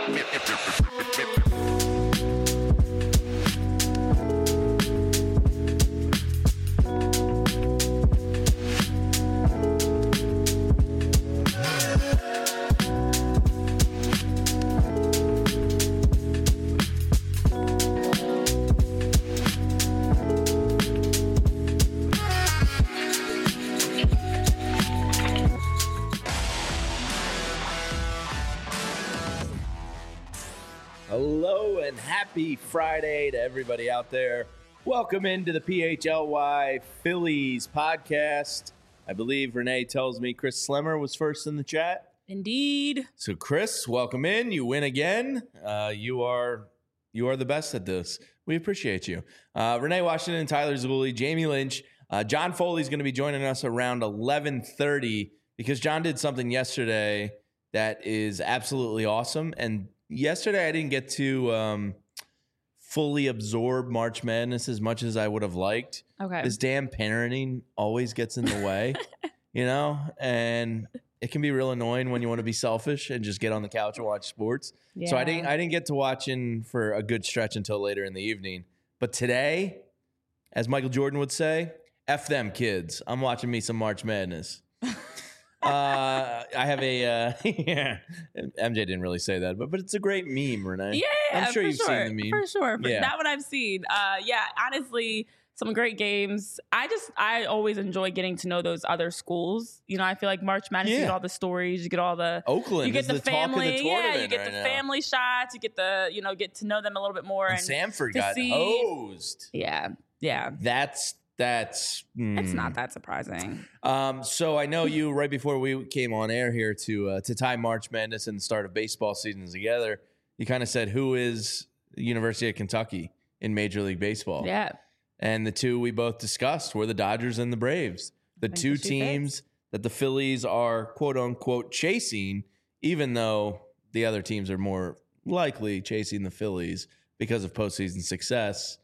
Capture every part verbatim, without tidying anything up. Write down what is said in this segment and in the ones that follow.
Hello and happy Friday to everybody out there. Welcome into the P H L Y Phillies podcast. I believe Renee tells me Chris Slemmer was first in the chat. Indeed. So Chris, welcome in. You win again. Uh, you are you are the best at this. We appreciate you. Uh, Renee Washington, Tyler Zulli, Jamie Lynch. Uh, John Foley is going to be joining us around eleven thirty because John did something yesterday that is absolutely awesome. And yesterday I didn't get to um, fully absorb March Madness as much as I would have liked. Okay. This damn parenting always gets in the way, you know, and it can be real annoying when you want to be selfish and just get on the couch and watch sports. Yeah. So I didn't I didn't get to watching for a good stretch until later in the evening. But today, as Michael Jordan would say, F them kids. I'm watching me some March Madness. Uh, I have a uh, yeah. M J didn't really say that, but but it's a great meme, Renee. Yeah, I'm sure for you've sure, seen the meme for sure. For Yeah. that one I've seen. Uh, yeah, honestly, some great games. I just I always enjoy getting to know those other schools. You know, I feel like March Madness, you Yeah. get all the stories, you get all the Oakland you get is the, the family, talk of the yeah, tournament you get right the now. family shots, you get the you know get to know them a little bit more. And, And, Samford to got see- hosed. yeah, yeah, That's that's mm. it's not that surprising. Um, so I know you right before we came on air here to uh, to tie March Madness and the start of baseball season together. You kind of said, who is the University of Kentucky in Major League Baseball? Yeah, And the two we both discussed were the Dodgers and the Braves, the Think two the shoe teams fits. that the Phillies are quote unquote chasing, even though the other teams are more likely chasing the Phillies because of postseason success.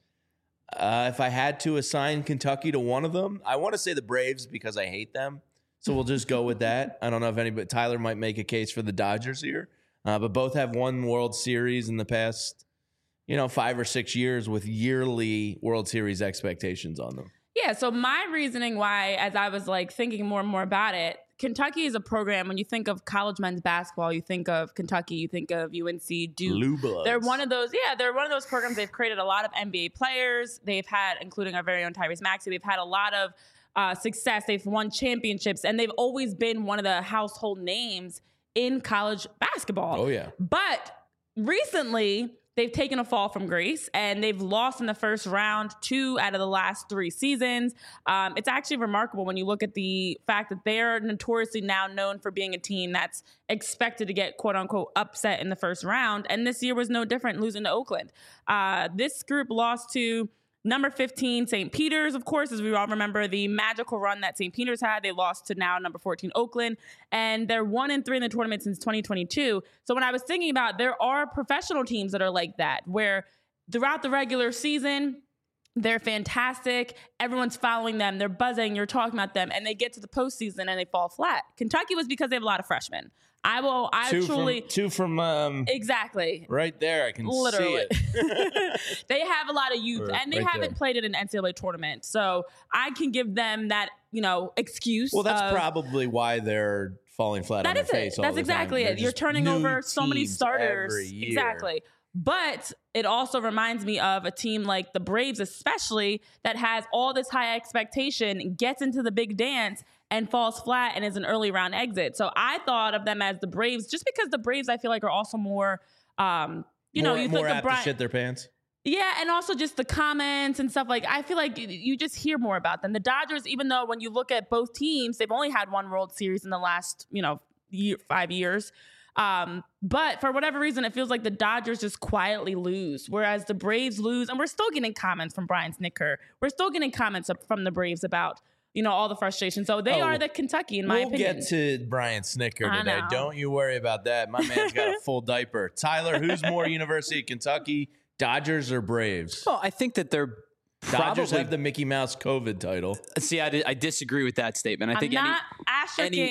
Uh, if I had to assign Kentucky to one of them, I want to say the Braves because I hate them. So we'll just go with that. I don't know if anybody, Tyler might make a case for the Dodgers here, uh, but both have won World Series in the past, you know, five or six years with yearly World Series expectations on them. Yeah, so my reasoning why, as I was like thinking more and more about it, Kentucky is a program. When you think of college men's basketball, you think of Kentucky, you think of U N C, Duke. Blue Bloods. They're one of those, yeah, they're one of those programs. They've created a lot of N B A players. They've had, including our very own Tyrese Maxey, they've had a lot of uh, success. They've won championships, and they've always been one of the household names in college basketball. Oh, yeah. But recently, they've taken a fall from grace, and they've lost in the first round two out of the last three seasons. Um, it's actually remarkable when you look at the fact that they're notoriously now known for being a team that's expected to get quote unquote upset in the first round. And this year was no different, losing to Oakland. Uh, this group lost to number fifteen, Saint Peter's, of course, as we all remember the magical run that Saint Peter's had. They lost to now number fourteen, Oakland, and they're one and three in the tournament since twenty twenty-two. So when I was thinking about, there are professional teams that are like that, where throughout the regular season, they're fantastic. Everyone's following them. They're buzzing. You're talking about them, and they get to the postseason and they fall flat. Kentucky was because they have a lot of freshmen. I will. I two truly from, two from um, exactly. right there. I can Literally. see it. They have a lot of youth, Right- and they right haven't there. played in an N C double A tournament, so I can give them that, you know, excuse. Well, that's of, probably why they're falling flat on that their is face it. all That's the exactly time. They're it. You're just turning new over so many teams starters. every year. Exactly. But it also reminds me of a team like the Braves, especially, that has all this high expectation, gets into the big dance, and falls flat and is an early round exit. So I thought of them as the Braves, just because the Braves, I feel like, are also more, um, you more, know, you more think of apt Brian. to shit their pants. Yeah, and also just the comments and stuff. Like, I feel like you- you just hear more about them. The Dodgers, even though when you look at both teams, they've only had one World Series in the last, you know, year, five years. Um, but for whatever reason, it feels like the Dodgers just quietly lose, whereas the Braves lose. And we're still getting comments from Brian Snitker. We're still getting comments from the Braves about, you know, all the frustration. So they Oh, are the Kentucky, in my we'll opinion. get to Brian Snicker I today. know. Don't you worry about that. My man's got a full diaper. Tyler, who's more University of Kentucky, Dodgers or Braves? Well, I think that they're Dodgers probably have the Mickey Mouse COVID title. see. I, di- I disagree with that statement. I I'm think not any, asterisking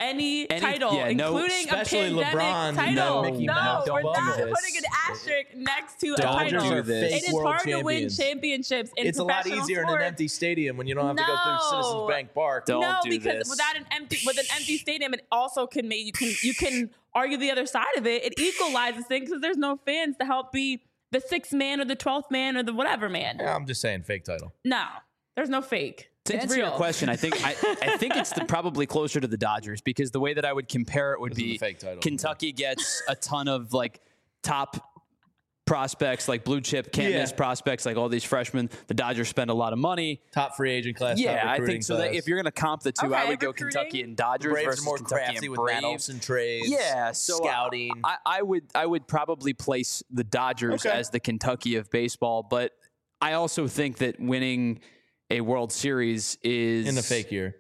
any, Any- title, yeah, no- including a especially pandemic LeBron, title. no, No, Mickey Mouse, we're don't not do this. putting an asterisk next to a Dodgers title. are this. fake It is world hard to win champions. championships in It's a lot professional easier in sports. an empty stadium when you don't have to go through No. Citizens Bank Park. Don't no, do because this. without an empty with an empty stadium, it also can make you can you can argue the other side of it. It equalizes things because there's no fans to help be the sixth man or the twelfth man or the whatever man. Yeah, I'm just saying, fake title. No, there's no fake. To It's answer real. your question, I think I, I think it's the, probably closer to the Dodgers because the way that I would compare it would This is be a fake title. Kentucky gets a ton of like top prospects, like blue chip can't Yeah. miss prospects, like all these freshmen. The Dodgers spend a lot of money. Top free agent class. top Yeah, I recruiting think so. That class. if you're going to comp the two, I Okay, would go recruiting. Kentucky and Dodgers Braves versus are more Kentucky crafty and with Braves. Matt Olson trades. Yeah, so uh, scouting. I, I would I would probably place the Dodgers Okay. as the Kentucky of baseball, but I also think that winning a World Series is in the fake year.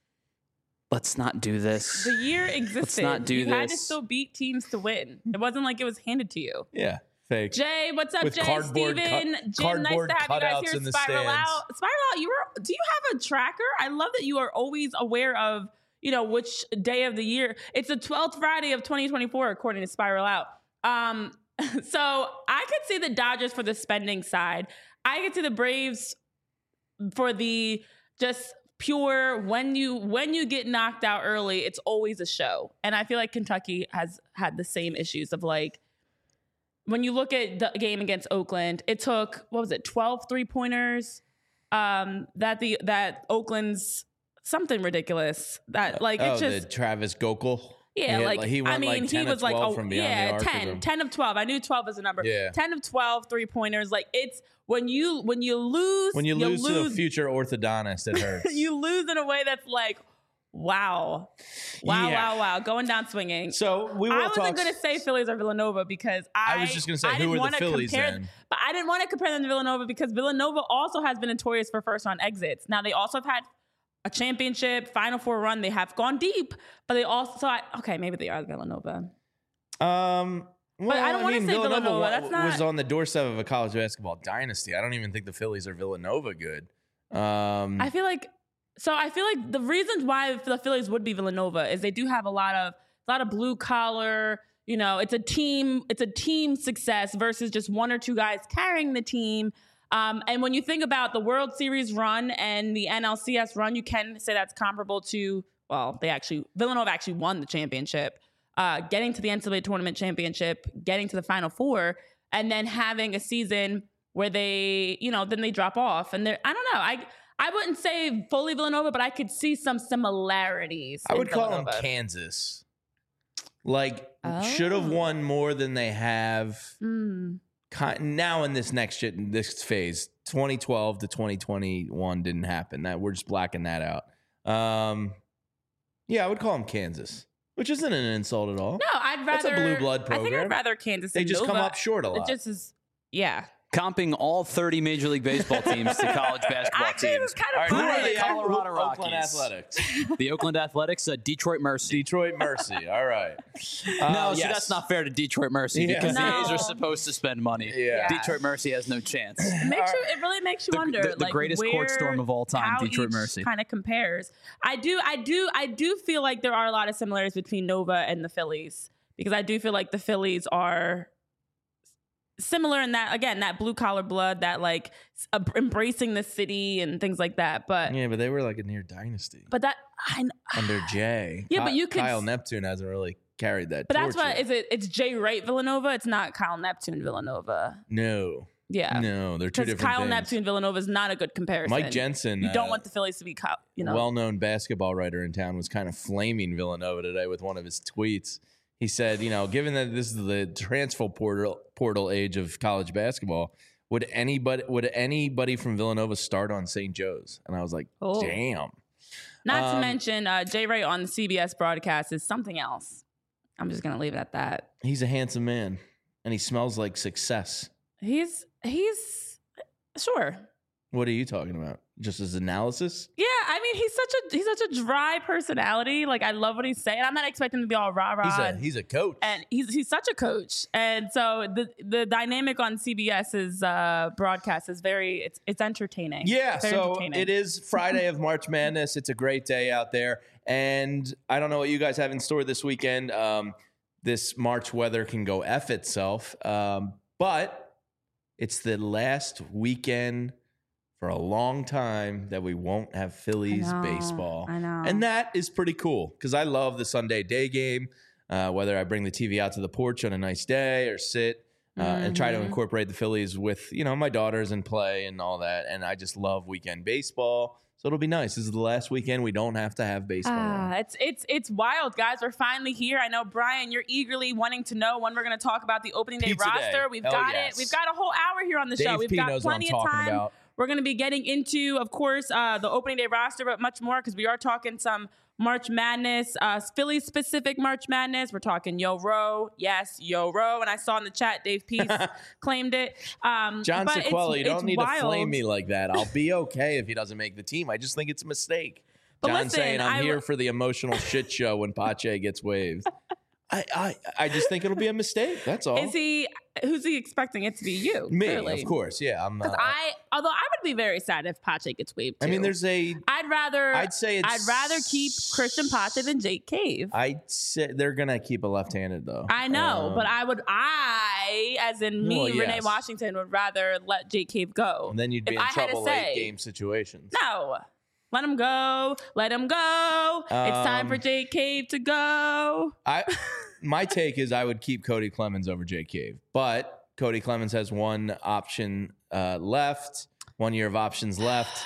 Let's not do this. The year existed. not do you had to this. still beat teams to win. It wasn't like it was handed to you. Yeah, fake. Jay, what's up, With Jay? cardboard Steven, cut- Jim, nice cardboard to have you guys cutouts here. in the Spiral stands. out. Spiral out. You were. Do you have a tracker? I love that you are always aware of, you know, which day of the year. It's the twelfth Friday of twenty twenty-four, according to Spiral Out. Um, so I could see the Dodgers for the spending side. I could see the Braves for the just pure when you when you get knocked out early, it's always a show. And I feel like Kentucky has had the same issues of like when you look at the game against Oakland, it took what was it, twelve three-pointers um that the that Oakland's something ridiculous. That like oh, it's just the Travis Gokel. yeah, He had, like, he went I mean, like ten he or was like, twelve oh, from beyond yeah, the arc of ten, him. ten of twelve. I knew twelve was a number. Yeah. ten of twelve three pointers. Like it's when you when you lose, When you, lose, to a lose future orthodontist, it hurts. you lose in a way that's like, wow, wow, Yeah. wow, wow, going down swinging. So we will I wasn't talk. going to say Phillies or Villanova because I, I was just gonna say, I who didn't are the wanna Phillies compare, then? But I didn't want to compare them to Villanova because Villanova also has been notorious for first round exits. Now they also have had a championship, Final Four run. They have gone deep, but they also, I, okay, maybe they are Villanova. Um, well, I don't wanna mean, say Villanova, Villanova. wa- That's not- was on the doorstep of a college basketball dynasty. I don't even think the Phillies are Villanova good. Um, I feel like so. I feel like the reasons why the Phillies would be Villanova is they do have a lot of a lot of blue collar. You know, it's a team. It's a team success versus just one or two guys carrying the team. Um, and when you think about the World Series run and the N L C S run, you can say that's comparable to. Well, they actually Villanova actually won the championship, uh, getting to the N C double A tournament championship, getting to the Final Four, and then having a season where they, you know, then they drop off. And they're, I don't know. I I wouldn't say fully Villanova, but I could see some similarities. I in would call them Villanova. Kansas. Like, Oh. should have won more than they have. Mm. Ki- Now in this next shit, this phase, twenty twelve to twenty twenty-one didn't happen. That we're just blacking that out. Um, yeah, I would call them Kansas, which isn't an insult at all. No, I'd That's rather a blue blood I think program. I'd rather Kansas. They than just come Nova. up short a It lot. just is, yeah. Comping all thirty Major League Baseball teams to college basketball Actually, it was teams. kind All of right, who Who are are funny. the Colorado Oakland Rockies? Athletics. The Oakland Athletics, uh, Detroit Mercy. Detroit Mercy. All right. no, Uh, see, yes. that's not fair to Detroit Mercy Yeah. because the No. A's are supposed to spend money. Yeah. Detroit Mercy has no chance. It makes you, it really makes you The- wonder, the- the like greatest where, court storm of all time, how Detroit each Mercy. kind of compares. I do, I do, I do feel like there are a lot of similarities between Nova and the Phillies because I do feel like the Phillies are similar in that, again, that blue collar blood, that like s- uh, embracing the city and things like that. But Yeah, but they were like a near dynasty but that I, kn- under Jay. Yeah, but Ky- you could Kyle s- Neptune hasn't really carried that. but that's torch why yet. is it? It's Jay Wright Villanova. It's not Kyle Neptune Villanova. No, Yeah, no, they're two because different Kyle things. Neptune Villanova is not a good comparison. Mike Jensen, You don't uh, want the Phillies to be, Kyle, you know. well-known basketball writer in town, was kind of flaming Villanova today with one of his tweets. He said, you know, given that this is the transfer portal portal age of college basketball, would anybody would anybody from Villanova start on Saint Joe's? And I was like, Oh. damn. Not to Um, mention, uh, Jay Wright on the C B S broadcast is something else. I'm just gonna leave it at that. He's a handsome man, and he smells like success. He's he's sure. What are you talking about? Just his analysis? Yeah, I mean he's such a he's such a dry personality. Like I love what he's saying. I'm not expecting him to be all rah rah. He's a he's a coach. and he's he's such a coach. And so the the dynamic on CBS's uh, broadcast is very it's it's entertaining. Yeah, Very so entertaining. it is Friday of March Madness. It's a great day out there. And I don't know what you guys have in store this weekend. Um, this March weather can go F itself. Um, but it's the last weekend for a long time that we won't have Phillies I know, baseball. I know. And that is pretty cool because I love the Sunday day game, uh, whether I bring the T V out to the porch on a nice day or sit uh, mm-hmm. and try to incorporate the Phillies with, you know, my daughters and play and all that. And I just love weekend baseball. So it'll be nice. This is the last weekend we don't have to have baseball. Ah, it's it's it's wild, guys. We're finally here. I know, Brian, you're eagerly wanting to know when we're going to talk about the opening day Pizza roster. day. We've Hell got yes. it. We've got a whole hour here on the Dave show. We've P got knows plenty what I'm of talking time. about. We're going to be getting into, of course, uh, the opening day roster, but much more because we are talking some March Madness, uh, Philly-specific March Madness. We're talking Yo Row. Yes, Yo Row. And I saw in the chat, Dave Peace claimed it. Um, John but Sequella, it's, you don't it's need wild. to flame me like that. I'll be okay if he doesn't make the team. I just think it's a mistake. But John's listen, saying I'm I here w- for the emotional shit show when Pache gets waived. I, I I just think it'll be a mistake. That's all. Is he? Who's he expecting it to be? You, me? clearly. Of course, yeah. I'm. Uh, I, although I would be very sad if Pache gets waived too. I mean, there's a. I'd rather. I'd say it's. I'd rather keep Christian Pache than Jake Cave. I'd say they're gonna keep a left-handed though. I know, Um, but I would. I, as in me, Well, Renee yes. Washington, would rather let Jake Cave go. And then you'd be If in I had to trouble say- late game situations. No. Let him go. Let him go. it's time for Um, Jake Cave to go. I my take is I would keep Cody Clemens over Jake Cave, but Cody Clemens has one option uh, left, one year of options left,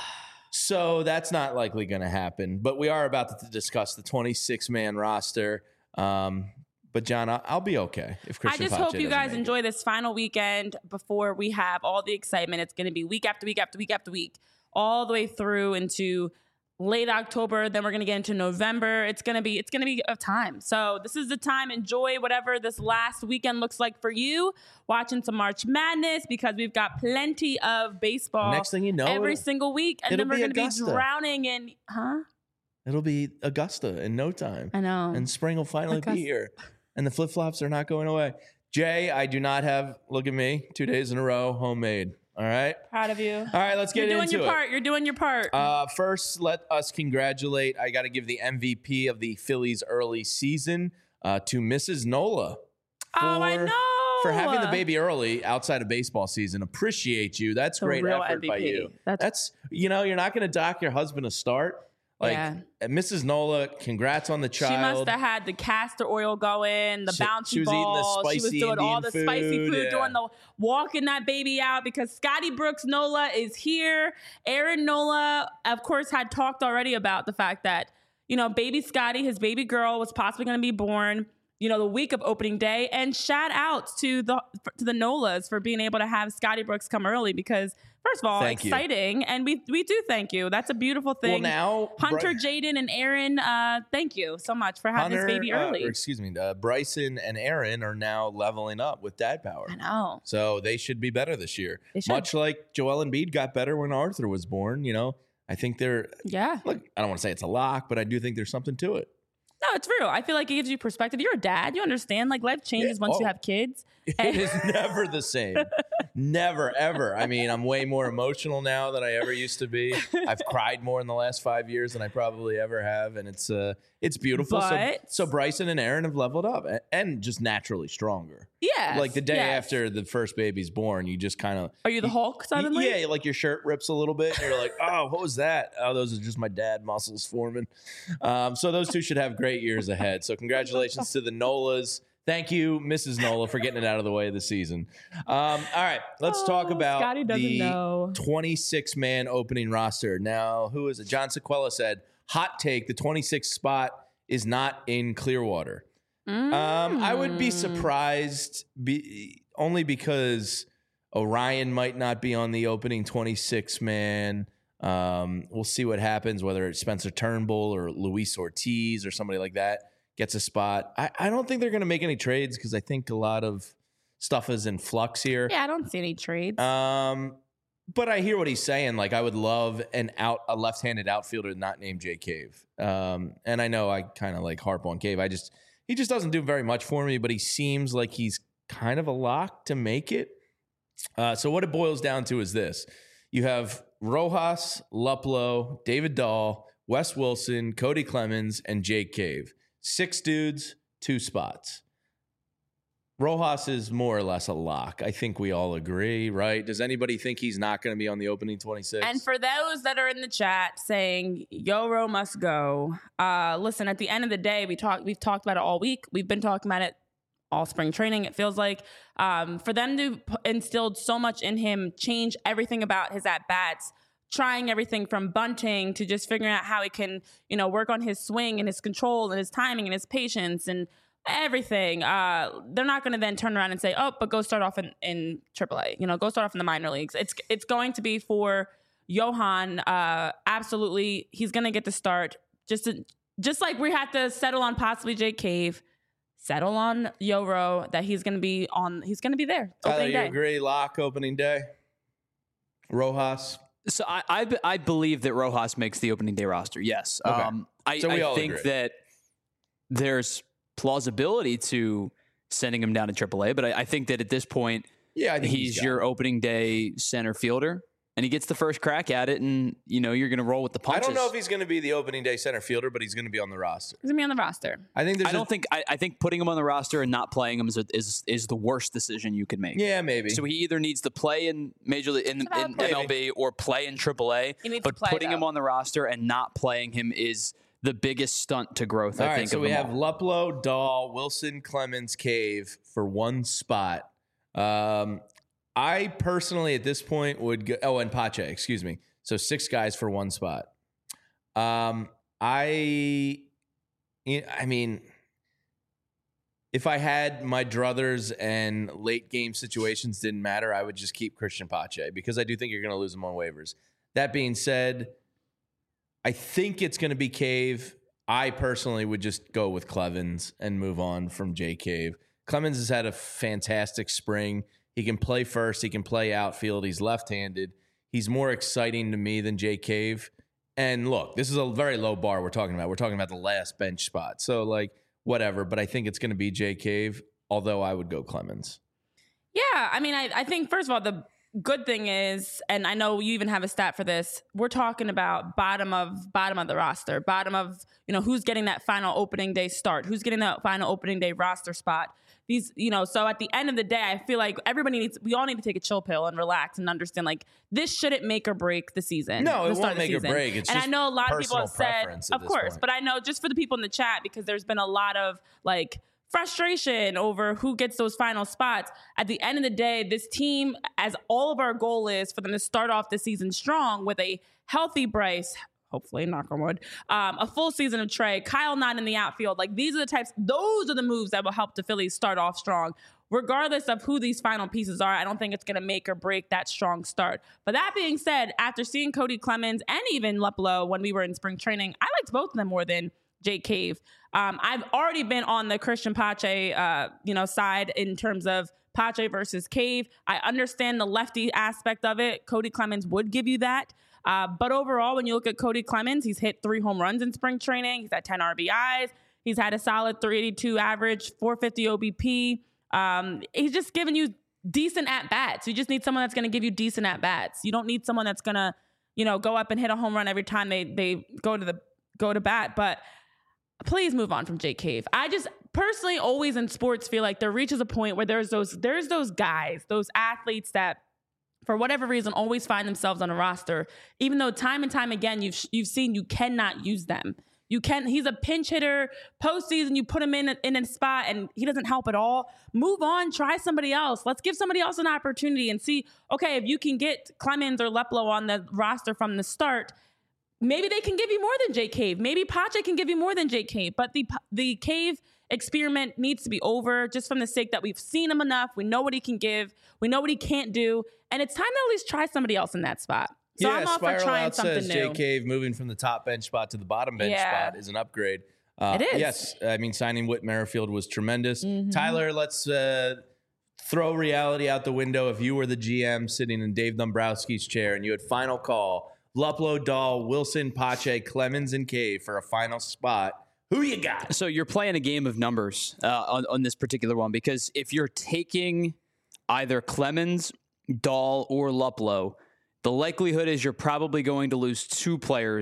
so that's not likely going to happen. But we are about to discuss the twenty-six man roster. Um, but John, I'll, I'll be okay if Christian. I just Pache hope you doesn't guys make it. enjoy this final weekend before we have all the excitement. It's going to be week after week after week after week, all the way through into late October. Then we're going to get into November. It's going to be, it's going to be a time. So this is the time. Enjoy whatever this last weekend looks like for you. Watching some March Madness because we've got plenty of baseball Next thing you know, every it'll- single week. And it'll then we're be going to be Augusta. drowning in, huh? It'll be Augusta in no time. I know. And spring will finally Augusta. be here. And the flip flops are not going away. Jay, I do not have, look at me, two days in a row, homemade. All right. Proud of you. All right, let's get You're doing into your it. part. You're doing your part. Uh, first, let us congratulate. I got to give the M V P of the Phillies early season uh, to Missus Nola. oh, I for- know. For having the baby early outside of baseball season. Appreciate you. That's A great real effort by M V P. you. That's- That's, you know, you're not going to dock your husband a start. Like, Yeah. uh, Missus Nola, congrats on the She child. must have had the castor oil going, the She- bouncy she was eating the balls. She was spicy doing all the Indian spicy food, food, yeah. doing the walking that baby out because Scotty Brooks Nola is here. Aaron Nola, of course, had talked already about the fact that, you know, baby Scotty, his baby girl, was possibly going to be born, you know, the week of opening day. And shout out to the to the Nolas for being able to have Scotty Brooks come early because, first of all, Thank you. exciting. And we we do thank you. That's a beautiful thing. Well, now Hunter, Bri- Jaden, and Aaron, uh, thank you so much for having Hunter, this baby uh, early. or excuse me, uh, Bryson and Aaron are now leveling up with dad power. I know. So they should be better this year. They should. Much like Joel Embiid got better when Arthur was born. You know, I think they're, Yeah. look, I don't want to say it's a lock, but I do think there's something to it. No, it's real. I feel like it gives you perspective. You're a dad. You understand. Like life changes Yeah. once you Oh. have kids. It is never the same. Never, ever. I mean, I'm way more emotional now than I ever used to be. I've cried more in the last five years than I probably ever have. And it's uh, it's beautiful. But- so, so Bryson and Aaron have leveled up a- and just naturally stronger. Yeah. Like the day after the first baby's born, you just kind of. Are you the Hulk suddenly? Yeah, like your shirt rips a little bit. And you're like, oh, what was that? Oh, those are just my dad muscles forming. Um, so those two should have great years ahead. So congratulations to the Nolas. Thank you, Missus Nola, for getting it out of the way of the season. Um, all right, let's talk Oh, about Scotty doesn't the know. twenty-six man opening roster. Now, who is it? John Sequella said, hot take, the twenty-sixth spot is not in Clearwater. Um, I would be Mm. surprised be, only because Orion might not be on the opening twenty-six man. Um, we'll see what happens, whether it's Spencer Turnbull or Luis Ortiz or somebody like that gets a spot. I, I don't think they're going to make any trades because I think a lot of stuff is in flux here. Yeah, I don't see any trades. Um, but I hear what he's saying. Like, I would love an out a left-handed outfielder not named Jay Cave. Um, and I know I kind of like harp on Cave. I just he just doesn't do very much for me. But he seems like he's kind of a lock to make it. Uh, so what it boils down to is this: you have Rojas, Luplow, David Dahl, Wes Wilson, Cody Clemens, and Jake Cave. Six dudes, two spots. Rojas is more or less a lock. I think we all agree, right? Does anybody think he's not going to be on the opening twenty-six? And for those that are in the chat saying Yoro must go, uh, listen, at the end of the day, we talk, we've talked about it all week. We've been talking about it all spring training, it feels like. Um, for them to p- instilled so much in him, change everything about his at-bats, trying everything from bunting to just figuring out how he can, you know, work on his swing and his control and his timing and his patience and everything. Uh, they're not going to then turn around and say, oh, but go start off in, in triple A. You know, go start off in the minor leagues. It's it's going to be for Johan. Uh, absolutely, he's going to get the start. Just to, just like we had to settle on possibly Jake Cave, settle on Yoro that he's going to be on. He's going to be there. Tyler, you day. agree? Lock opening day. Rojas. So I, I I believe that Rojas makes the opening day roster. Yes. Okay. Um, I, So we I all think agree. that there's plausibility to sending him down to triple A, but I, I think that at this point, Yeah, I think he's got your it. opening day center fielder, and he gets the first crack at it, and you know you're going to roll with the I punches. don't know if he's going to be the opening day center fielder, but he's going to be on the roster. He's going to be on the roster. I think there's I don't think I, I think putting him on the roster and not playing him is a, is is the worst decision you could make. Yeah, maybe. So he either needs to play in Major League in, about in play. M L B or play in triple A. He needs But to play, putting him though. on the roster and not playing him is the biggest stunt to growth. All I right, think. so of we them have all. Luplow, Dahl, Wilson, Clemens, Cave for one spot. Um, I personally, at this point, would go. Oh, and Pache, excuse me. So six guys for one spot. Um, I, I mean, if I had my druthers and late game situations didn't matter, I would just keep Christian Pache because I do think you're going to lose him on waivers. That being said, I think it's going to be Cave. I personally would just go with Clemens and move on from Jay Cave. Clemens has had a fantastic spring. He can play first. He can play outfield. He's left-handed. He's more exciting to me than Jay Cave. And look, this is a very low bar we're talking about. We're talking about the last bench spot. So, like, whatever. But I think it's going to be Jay Cave, although I would go Clemens. Yeah, I mean, I, I think, first of all, the good thing is, and I know you even have a stat for this, we're talking about bottom of bottom of the roster, bottom of, you know, who's getting that final opening day start, who's getting that final opening day roster spot. These, you know, so at the end of the day, I feel like everybody needs, we all need to take a chill pill and relax and understand, like, this shouldn't make or break the season. No, it the start won't of the make or season. break. It's and just I know a lot of people personal have said, preference at of this course, point. but I know just for the people in the chat, because there's been a lot of, like, frustration over who gets those final spots. At the end of the day, this team, as all of our goal is for them to start off the season strong with a healthy Bryce, hopefully, knock on wood, um, a full season of Trey, Kyle not in the outfield. Like, these are the types, those are the moves that will help the Phillies start off strong. Regardless of who these final pieces are, I don't think it's going to make or break that strong start. But that being said, after seeing Cody Clemens and even Luplow when we were in spring training, I liked both of them more than Jake Cave. Um, I've already been on the Christian Pache, uh, you know, side in terms of Pache versus Cave. I understand the lefty aspect of it. Cody Clemens would give you that. Uh, but overall, when you look at Cody Clemens, he's hit three home runs in spring training. He's had ten R B Is. He's had a solid three eighty-two average, four fifty O B P. Um, he's just giving you decent at-bats. You just need someone that's going to give you decent at-bats. You don't need someone that's going to, you know, go up and hit a home run every time they they go to the go to bat. But please move on from Jake Cave. I just personally always in sports feel like there reaches a point where there's those there's those guys, those athletes that for whatever reason always find themselves on a roster, even though time and time again you've you've seen you cannot use them. You can. He's a pinch hitter. Postseason, you put him in a, in a spot and he doesn't help at all. Move on. Try somebody else. Let's give somebody else an opportunity and see. Okay, if you can get Clemens or Luplow on the roster from the start, maybe they can give you more than Jake Cave. Maybe Pache can give you more than Jake Cave. But the the Cave experiment needs to be over, just from the sake that we've seen him enough. We know what he can give. We know what he can't do, and it's time to at least try somebody else in that spot. So yeah, I'm all for Spiral trying Out something says new. Jay Cave moving from the top bench spot to the bottom bench Yeah. spot is an upgrade. Uh, It is. Yes, I mean, signing Whit Merrifield was tremendous. Mhm. Tyler, let's uh, throw reality out the window. If you were the G M sitting in Dave Dombrowski's chair and you had final call, Luplow, Dahl, Wilson, Pache, Clemens, and Cave for a final spot, who you got? So you're playing a game of numbers uh, on, on this particular one, because if you're taking either Clemens, Dahl, or Luplow, the likelihood is you're probably going to lose two players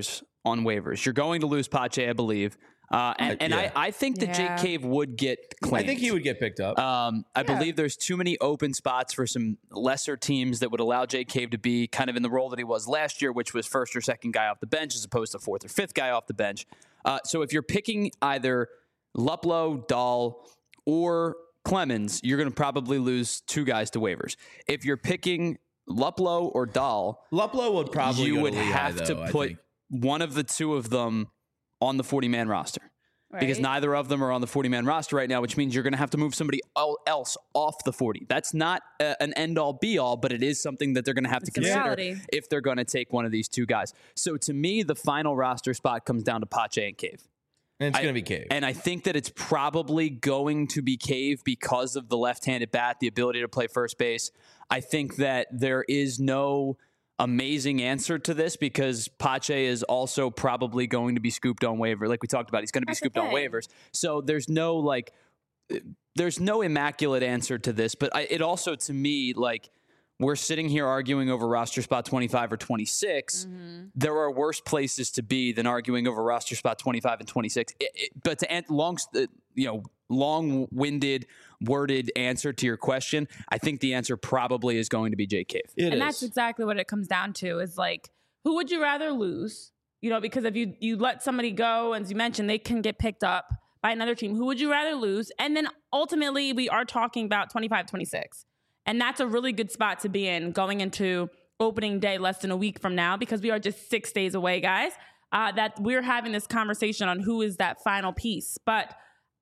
on waivers. You're going to lose Pache, I believe. Uh, and and yeah. I, I think that Yeah. Jake Cave would get claimed. I think he would get picked up. Um, I Yeah. believe there's too many open spots for some lesser teams that would allow Jake Cave to be kind of in the role that he was last year, which was first or second guy off the bench as opposed to fourth or fifth guy off the bench. Uh, so if you're picking either Luplow, Dahl, or Clemens, you're going to probably lose two guys to waivers. If you're picking Luplow or Dahl, Luplow would probably you go would to Lehigh, have though, to I put think. one of the two of them on the forty-man roster. Because Right. neither of them are on the forty-man roster right now, which means you're going to have to move somebody el- else off the forty. That's not a, an end-all, be-all, but it is something that they're going to have to It's a consider reality. if they're going to take one of these two guys. So to me, the final roster spot comes down to Pache and Cave. And it's I- going to be Cave. And I think that it's probably going to be Cave because of the left-handed bat, the ability to play first base. I think that there is no amazing answer to this because Pache is also probably going to be scooped on waiver. Like we talked about, he's going to be That's the scooped on thing. waivers. So there's no like, there's no immaculate answer to this. But I, it also, to me, like we're sitting here arguing over roster spot twenty-five or twenty-six. Mm-hmm. There are worse places to be than arguing over roster spot twenty-five and twenty-six. It, it, but to an- long, uh, you know, long-winded, worded answer to your question, I think the answer probably is going to be Jake Cave. It and is. that's exactly what it comes down to is like, who would you rather lose? You know, because if you, you let somebody go, as you mentioned, they can get picked up by another team. Who would you rather lose? And then ultimately, we are talking about twenty-five, twenty-six. And that's a really good spot to be in going into opening day less than a week from now, because we are just six days away, guys, uh, that we're having this conversation on who is that final piece. But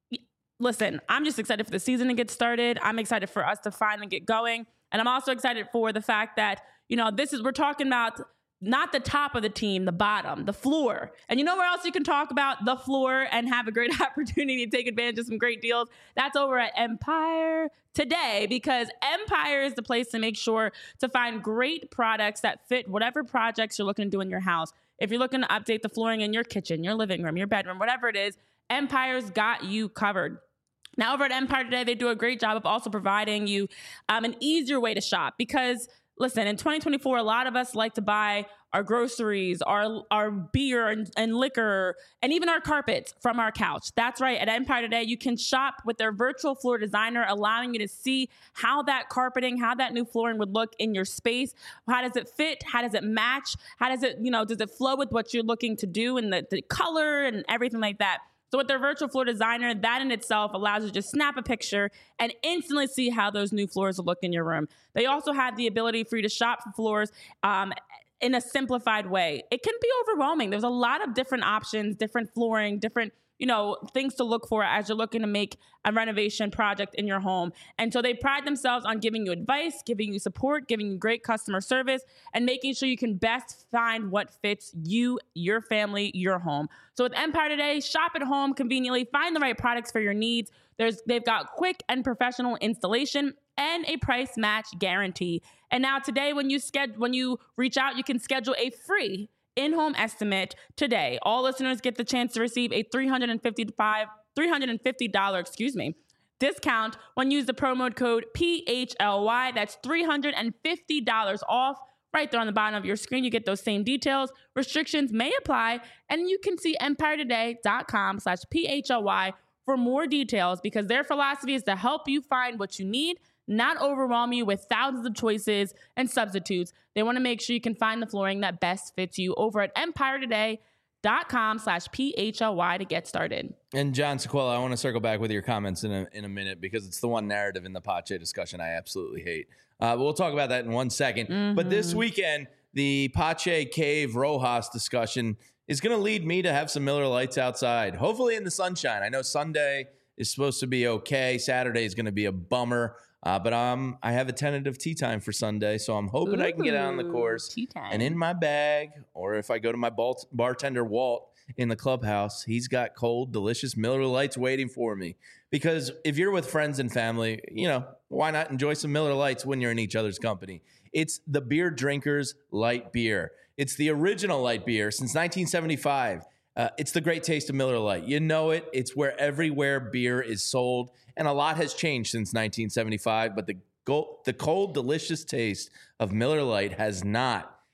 listen, I'm just excited for the season to get started. I'm excited for us to finally get going. And I'm also excited for the fact that, you know, this is, we're talking about not the top of the team, the bottom, the floor. And you know where else you can talk about the floor and have a great opportunity to take advantage of some great deals? That's over at Empire Today, because Empire is the place to make sure to find great products that fit whatever projects you're looking to do in your house. If you're looking to update the flooring in your kitchen, your living room, your bedroom, whatever it is, Empire's got you covered. Now, over at Empire Today, they do a great job of also providing you um, an easier way to shop because, listen, in twenty twenty-four, a lot of us like to buy our groceries, our our beer and, and liquor, and even our carpets from our couch. That's right. At Empire Today, you can shop with their virtual floor designer, allowing you to see how that carpeting, how that new flooring would look in your space. How does it fit? How does it match? How does it, you know, does it flow with what you're looking to do and the, the color and everything like that? So with their virtual floor designer, that in itself allows you to just snap a picture and instantly see how those new floors will look in your room. They also have the ability for you to shop for floors um, in a simplified way. It can be overwhelming. There's a lot of different options, different flooring, different, you know, things to look for as you're looking to make a renovation project in your home. And so they pride themselves on giving you advice, giving you support, giving you great customer service, and making sure you can best find what fits you, your family, your home. So with Empire Today, shop at home conveniently, find the right products for your needs. There's, they've got quick and professional installation and a price match guarantee. And now today, when you schedule, when you reach out, you can schedule a free in-home estimate today. All listeners get the chance to receive a three hundred fifty-five dollars three hundred fifty dollars, excuse me, discount when you use the promo code P H L Y. That's three hundred fifty dollars off. Right there on the bottom of your screen, you get those same details. Restrictions may apply, and you can see empiretoday.com slash P H L Y for more details, because their philosophy is to help you find what you need, not overwhelm you with thousands of choices and substitutes. They want to make sure you can find the flooring that best fits you over at empiretoday.com slash P H L Y to get started. And John Sequela, I want to circle back with your comments in a, in a minute, because it's the one narrative in the Pache discussion I absolutely hate. Uh, but we'll talk about that in one second. Mm-hmm. But this weekend, the Pache Cave Rojas discussion is going to lead me to have some Miller Lights outside, hopefully in the sunshine. I know Sunday is supposed to be okay. Saturday is going to be a bummer. Uh, but um, I have a tentative tea time for Sunday, so I'm hoping I can get out on the course. Tea time. And in my bag, or if I go to my balt- bartender Walt in the clubhouse, he's got cold, delicious Miller Lights waiting for me. Because if you're with friends and family, you know, why not enjoy some Miller Lights when you're in each other's company? It's the beer drinkers' light beer. It's the original light beer since nineteen seventy-five. Uh, it's the great taste of Miller Lite. You know it. It's where everywhere beer is sold. And a lot has changed since nineteen seventy-five, but the, go- the cold, delicious taste of Miller Lite has not.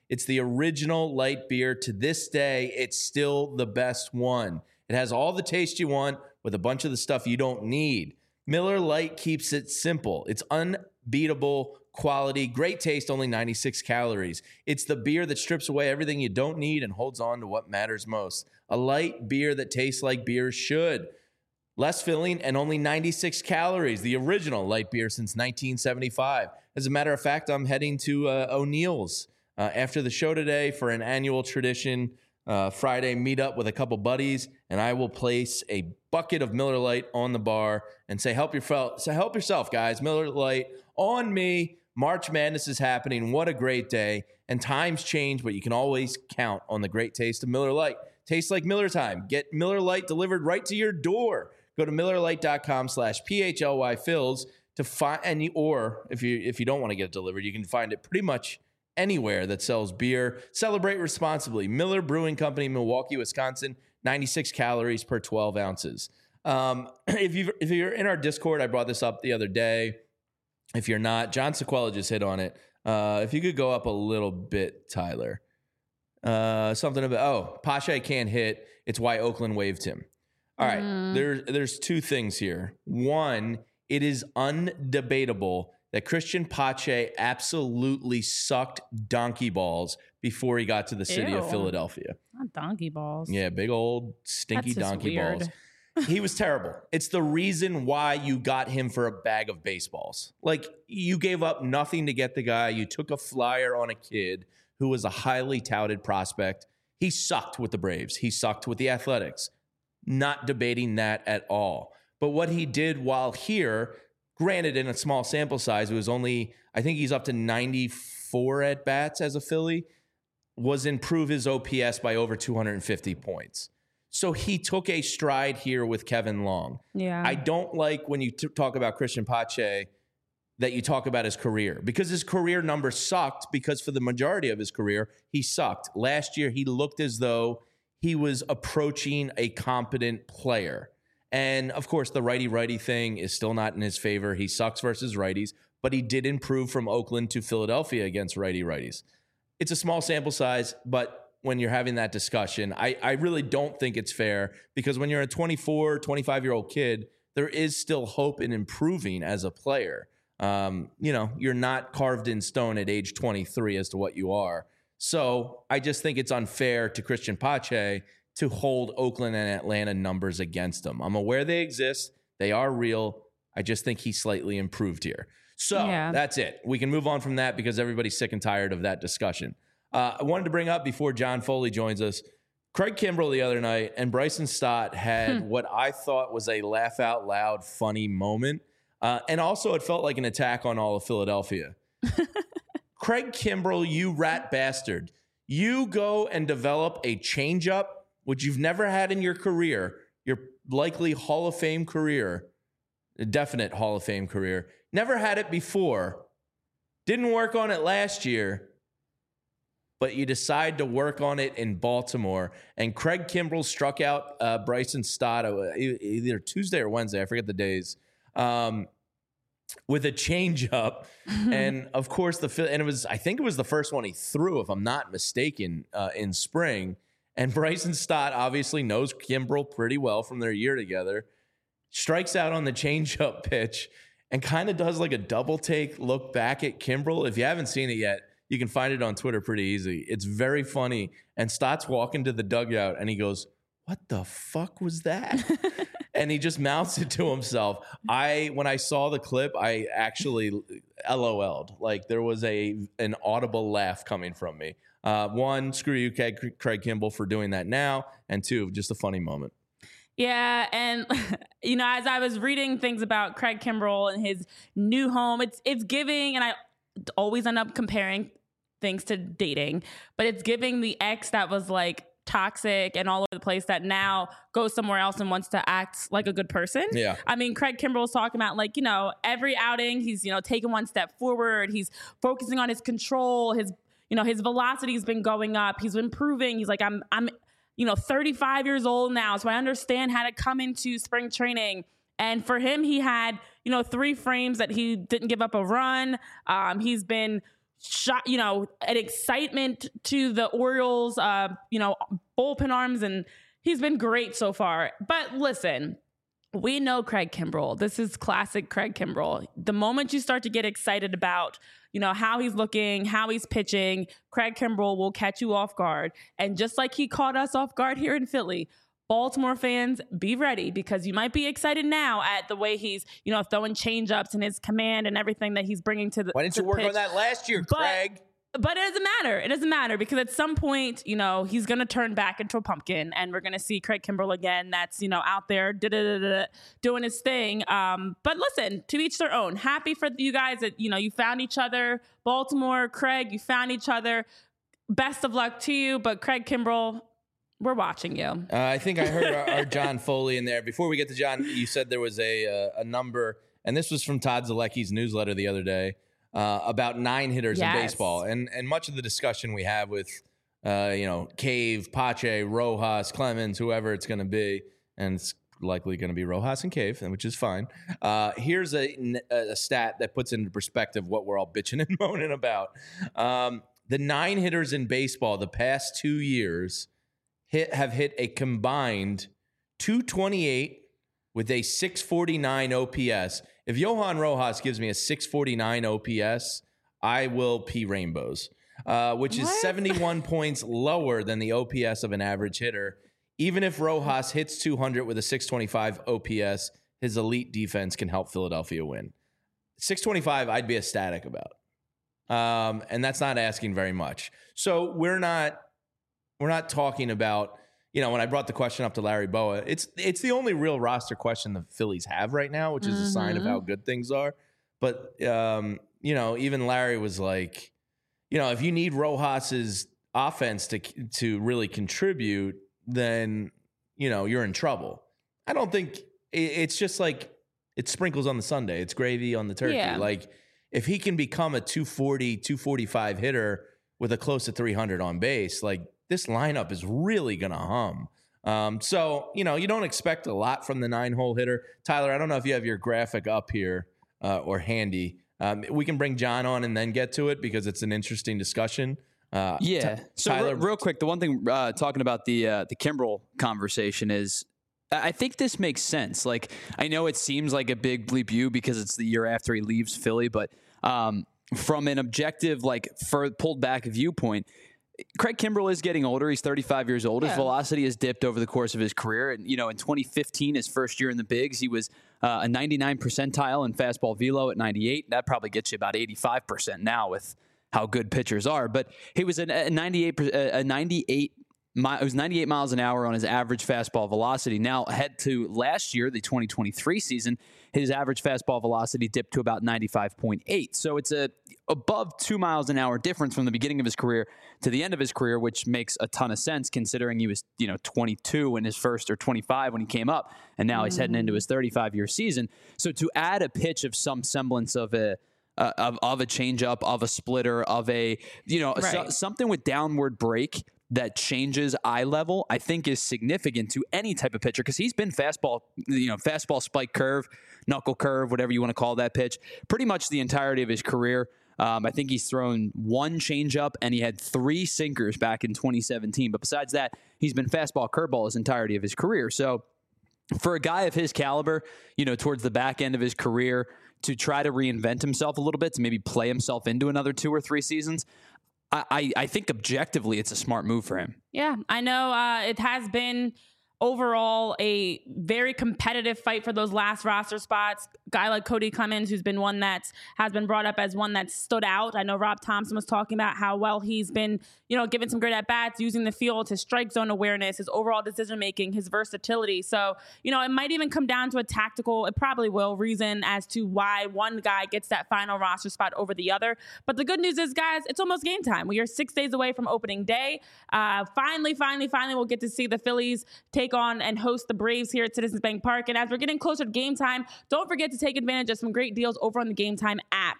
It's the original light beer. To this day, it's still the best one. It has all the taste you want with a bunch of the stuff you don't need. Miller Lite keeps it simple. It's unbeatable quality, great taste, only ninety-six calories. It's the beer that strips away everything you don't need and holds on to what matters most. A light beer that tastes like beer should. Less filling and only ninety-six calories. The original light beer since nineteen seventy-five. As a matter of fact, I'm heading to uh, O'Neill's uh, after the show today for an annual tradition uh, Friday meetup with a couple buddies, and I will place a bucket of Miller Lite on the bar and say, "Help yourself, say, help yourself, guys. Miller Lite on me." March Madness is happening. What a great day. And times change, but you can always count on the great taste of Miller Lite. Tastes like Miller time. Get Miller Lite delivered right to your door. Go to MillerLite.com slash PHLY Phils to find any, or if you if you don't want to get it delivered, you can find it pretty much anywhere that sells beer. Celebrate responsibly. Miller Brewing Company, Milwaukee, Wisconsin, ninety-six calories per twelve ounces. Um, if you if you're in our Discord, I brought this up the other day. If you're not, John Sequela just hit on it. Uh, if you could go up a little bit, Tyler. Uh, something about, oh, Pache can't hit. It's why Oakland waived him. All right, mm. there, there's two things here. One, it is undebatable that Christian Pache absolutely sucked donkey balls before he got to the city Ew. of Philadelphia. Not donkey balls. Yeah, big old stinky That's donkey weird. balls. He was terrible. It's the reason why you got him for a bag of baseballs. Like, you gave up nothing to get the guy. You took a flyer on a kid who was a highly touted prospect. He sucked with the Braves. He sucked with the Athletics. Not debating that at all. But what he did while here, granted in a small sample size, it was only, I think he's up to ninety-four at-bats as a Philly, was improve his O P S by over two hundred fifty points. So he took a stride here with Kevin Long. Yeah. I don't like when you t- talk about Christian Pache that you talk about his career, because his career numbers sucked, because for the majority of his career, he sucked. Last year, he looked as though he was approaching a competent player. And of course, the righty-righty thing is still not in his favor. He sucks versus righties, but he did improve from Oakland to Philadelphia against righty-righties. It's a small sample size, but when you're having that discussion, I, I really don't think it's fair, because when you're a twenty-four, twenty-five-year-old kid, there is still hope in improving as a player. Um, you know, you're not carved in stone at age twenty-three as to what you are. So I just think it's unfair to Christian Pache to hold Oakland and Atlanta numbers against him. I'm aware they exist. They are real. I just think he slightly improved here. So yeah. That's it. We can move on from that because everybody's sick and tired of that discussion. Uh, I wanted to bring up before John Foley joins us, Craig Kimbrell the other night and Bryson Stott had what I thought was a laugh out loud funny moment. Uh, and also it felt like an attack on all of Philadelphia. Craig Kimbrell, you rat bastard. You go and develop a changeup, which you've never had in your career, your likely Hall of Fame career, a definite Hall of Fame career. Never had it before. Didn't work on it last year. But you decide to work on it in Baltimore. And Craig Kimbrell struck out uh, Bryson Stott uh, either Tuesday or Wednesday, I forget the days, um, with a changeup. And of course, the and it was I think it was the first one he threw, if I'm not mistaken, uh, in spring. And Bryson Stott obviously knows Kimbrell pretty well from their year together. Strikes out on the changeup pitch and kind of does like a double take look back at Kimbrell. If you haven't seen it yet, you can find it on Twitter pretty easy. It's very funny. And Stott's walking to the dugout and he goes, "What the fuck was that?" And he just mouths it to himself. I, when I saw the clip, I actually LOL'd. Like there was a an audible laugh coming from me. Uh, one, screw you, Craig Kimbrell, for doing that now. And two, just a funny moment. Yeah, and you know, as I was reading things about Craig Kimbrell and his new home, it's it's giving, and I always end up comparing things to dating, but it's giving the ex that was like toxic and all over the place that now goes somewhere else and wants to act like a good person. Yeah. I mean, Craig Kimbrell's talking about like, you know, every outing he's, you know, taking one step forward. He's focusing on his control. His, you know, his velocity has been going up. He's improving. He's like, I'm, I'm, you know, thirty-five years old now. So I understand how to come into spring training. And for him, he had, you know, three frames that he didn't give up a run. Um, he's been shot, you know, an excitement to the Orioles, uh, you know, bullpen arms, and he's been great so far. But listen, we know Craig Kimbrel. This is classic Craig Kimbrel. The moment you start to get excited about, you know, how he's looking, how he's pitching, Craig Kimbrel will catch you off guard. And just like he caught us off guard here in Philly, Baltimore fans, be ready, because you might be excited now at the way he's, you know, throwing change-ups and his command and everything that he's bringing to the Why didn't you work pitch. on that last year, But- Craig? But it doesn't matter. It doesn't matter because at some point, you know, he's going to turn back into a pumpkin and we're going to see Craig Kimbrel again. That's, you know, out there da-da-da-da, doing his thing. Um, but listen, to each their own. Happy for you guys that, you know, you found each other. Baltimore, Craig, you found each other. Best of luck to you. But Craig Kimbrel, we're watching you. Uh, I think I heard our, our John Foley in there. Before we get to John, you said there was a uh, a number, and this was from Todd Zalecki's newsletter the other day. Uh, about nine hitters Yes. in baseball, and and much of the discussion we have with, uh, you know, Cave, Pache, Rojas, Clemens, whoever it's going to be, and it's likely going to be Rojas and Cave, which is fine. Uh, here's a, a stat that puts into perspective what we're all bitching and moaning about. Um, the nine hitters in baseball the past two years hit have hit a combined two twenty-eight with a six forty-nine O P S. If Johan Rojas gives me a six forty-nine O P S, I will pee rainbows, uh, which is What? seventy-one points lower than the O P S of an average hitter. Even if Rojas hits two hundred with a six twenty-five O P S, his elite defense can help Philadelphia win. six twenty-five, I'd be ecstatic about. Um, and that's not asking very much. So we're not we're not talking about, you know, when I brought the question up to Larry Boa, it's it's the only real roster question the Phillies have right now, which is a sign of how good things are. But, um, you know, even Larry was like, you know, if you need Rojas's offense to to really contribute, then, you know, you're in trouble. I don't think it, it's just like it's sprinkles on the sundae. It's gravy on the turkey. Yeah. Like if he can become a two forty, two forty-five hitter with a close to three hundred on base, like this lineup is really going to hum. Um, so, you know, you don't expect a lot from the nine-hole hitter. Tyler, I don't know if you have your graphic up here uh, or handy. Um, we can bring John on and then get to it because it's an interesting discussion. Uh, Yeah. T- so Tyler, re- real quick, the one thing uh, talking about the uh, the Kimbrel conversation is I think this makes sense. Like, I know it seems like a big bleep you because it's the year after he leaves Philly, but um, from an objective, like, for pulled back viewpoint, Craig Kimbrel is getting older. He's thirty-five years old. His Yeah. velocity has dipped over the course of his career. And, you know, in twenty fifteen, his first year in the bigs, he was uh, a ninety-nine percentile in fastball velo at ninety-eight. That probably gets you about eighty-five percent now with how good pitchers are. But he was a, a ninety-eight, a ninety-eight, it was ninety-eight miles an hour on his average fastball velocity. Now, head to last year, the twenty twenty-three season, his average fastball velocity dipped to about ninety-five point eight. So it's a above two miles an hour difference from the beginning of his career to the end of his career, which makes a ton of sense considering he was, you know, twenty-two in his first or twenty-five when he came up, and now mm. he's heading into his thirty-five year season. So to add a pitch of some semblance of a uh, of, of a changeup, of a splitter, of a, you know, right. so, something with downward break that changes eye level, I think is significant to any type of pitcher because he's been fastball, you know, fastball spike curve, knuckle curve, whatever you want to call that pitch, pretty much the entirety of his career. Um, I think he's thrown one changeup and he had three sinkers back in twenty seventeen. But besides that, he's been fastball curveball his entirety of his career. So for a guy of his caliber, you know, towards the back end of his career, to try to reinvent himself a little bit, to maybe play himself into another two or three seasons, I, I, I think objectively it's a smart move for him. Yeah, I know uh, it has been overall a very competitive fight for those last roster spots. Guy like Cody Clemens, who's been one that has been brought up as one that stood out. I know Rob Thompson was talking about how well he's been, you know, given some great at-bats, using the field, his strike zone awareness, his overall decision-making, his versatility. So, you know, it might even come down to a tactical, it probably will, reason as to why one guy gets that final roster spot over the other. But the good news is, guys, it's almost game time. We are six days away from opening day. Uh, finally, finally, finally, we'll get to see the Phillies take on and host the Braves here at Citizens Bank Park. And as we're getting closer to game time, don't forget to take advantage of some great deals over on the Game Time app.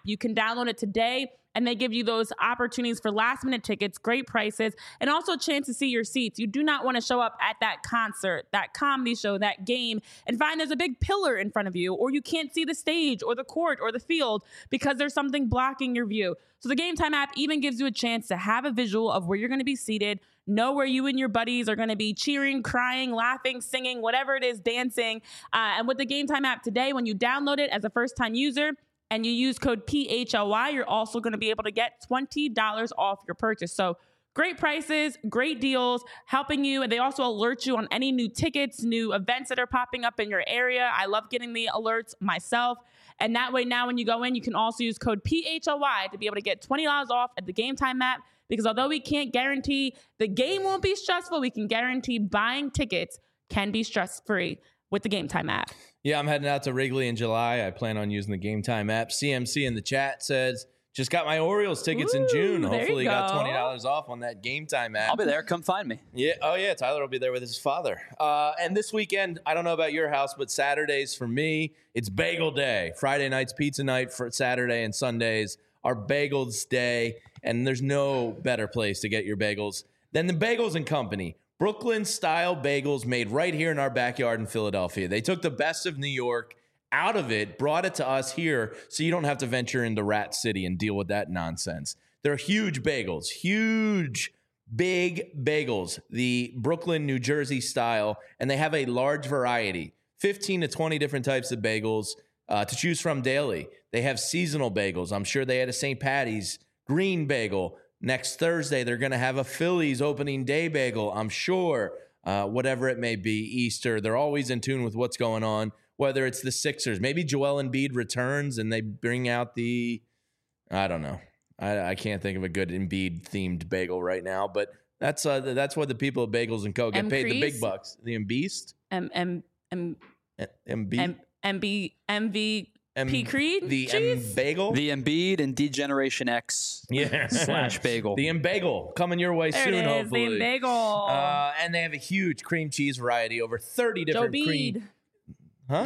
You can download it today, and they give you those opportunities for last minute tickets, great prices, and also a chance to see your seats. You do not want to show up at that concert, that comedy show, that game, and find there's a big pillar in front of you, or you can't see the stage or the court or the field because there's something blocking your view. So the Game Time app even gives you a chance to have a visual of where you're going to be seated, know where you and your buddies are going to be cheering, crying, laughing, singing, whatever it is, dancing. Uh, and with the Game Time app today, when you download it as a first-time user, and you use code P H L Y, you're also going to be able to get twenty dollars off your purchase. So great prices, great deals, helping you. And they also alert you on any new tickets, new events that are popping up in your area. I love getting the alerts myself. And that way now when you go in, you can also use code P H L Y to be able to get twenty dollars off at the Game Time app. Because although we can't guarantee the game won't be stressful, we can guarantee buying tickets can be stress-free with the Game Time app. Yeah, I'm heading out to Wrigley in July. I plan on using the Game Time app. C M C in the chat says, just got my Orioles tickets Ooh, in June. there Hopefully you got go. twenty dollars off on that Game Time app. I'll be there. Come find me. Yeah. Oh, yeah. Tyler will be there with his father. Uh, and this weekend, I don't know about your house, but Saturdays for me, it's bagel day. Friday night's pizza night for Saturday, and Sundays are bagels day. And there's no better place to get your bagels than the Bagels and Company. Brooklyn-style bagels made right here in our backyard in Philadelphia. They took the best of New York out of it, brought it to us here, so you don't have to venture into Rat City and deal with that nonsense. They're huge bagels, huge, big bagels, the Brooklyn, New Jersey style, and they have a large variety, fifteen to twenty different types of bagels uh, to choose from daily. They have seasonal bagels. I'm sure they had a Saint Patty's green bagel. Next Thursday, they're going to have a Phillies opening day bagel, I'm sure, uh, whatever it may be, Easter. They're always in tune with what's going on, whether it's the Sixers. Maybe Joel Embiid returns and they bring out the, I don't know. I, I can't think of a good Embiid-themed bagel right now, but that's uh, that's what the people of Bagels and Co. get M. paid the big Crease? bucks. The Embeast? M M M Embiid? M M B M V P Creed? The Jeez. M-Bagel? The Embiid and D-Generation X yeah. slash bagel. The M-Bagel coming your way There soon, it is, hopefully. the bagel. Uh, and they have a huge cream cheese variety, over thirty Joe different cream. Bede. Huh?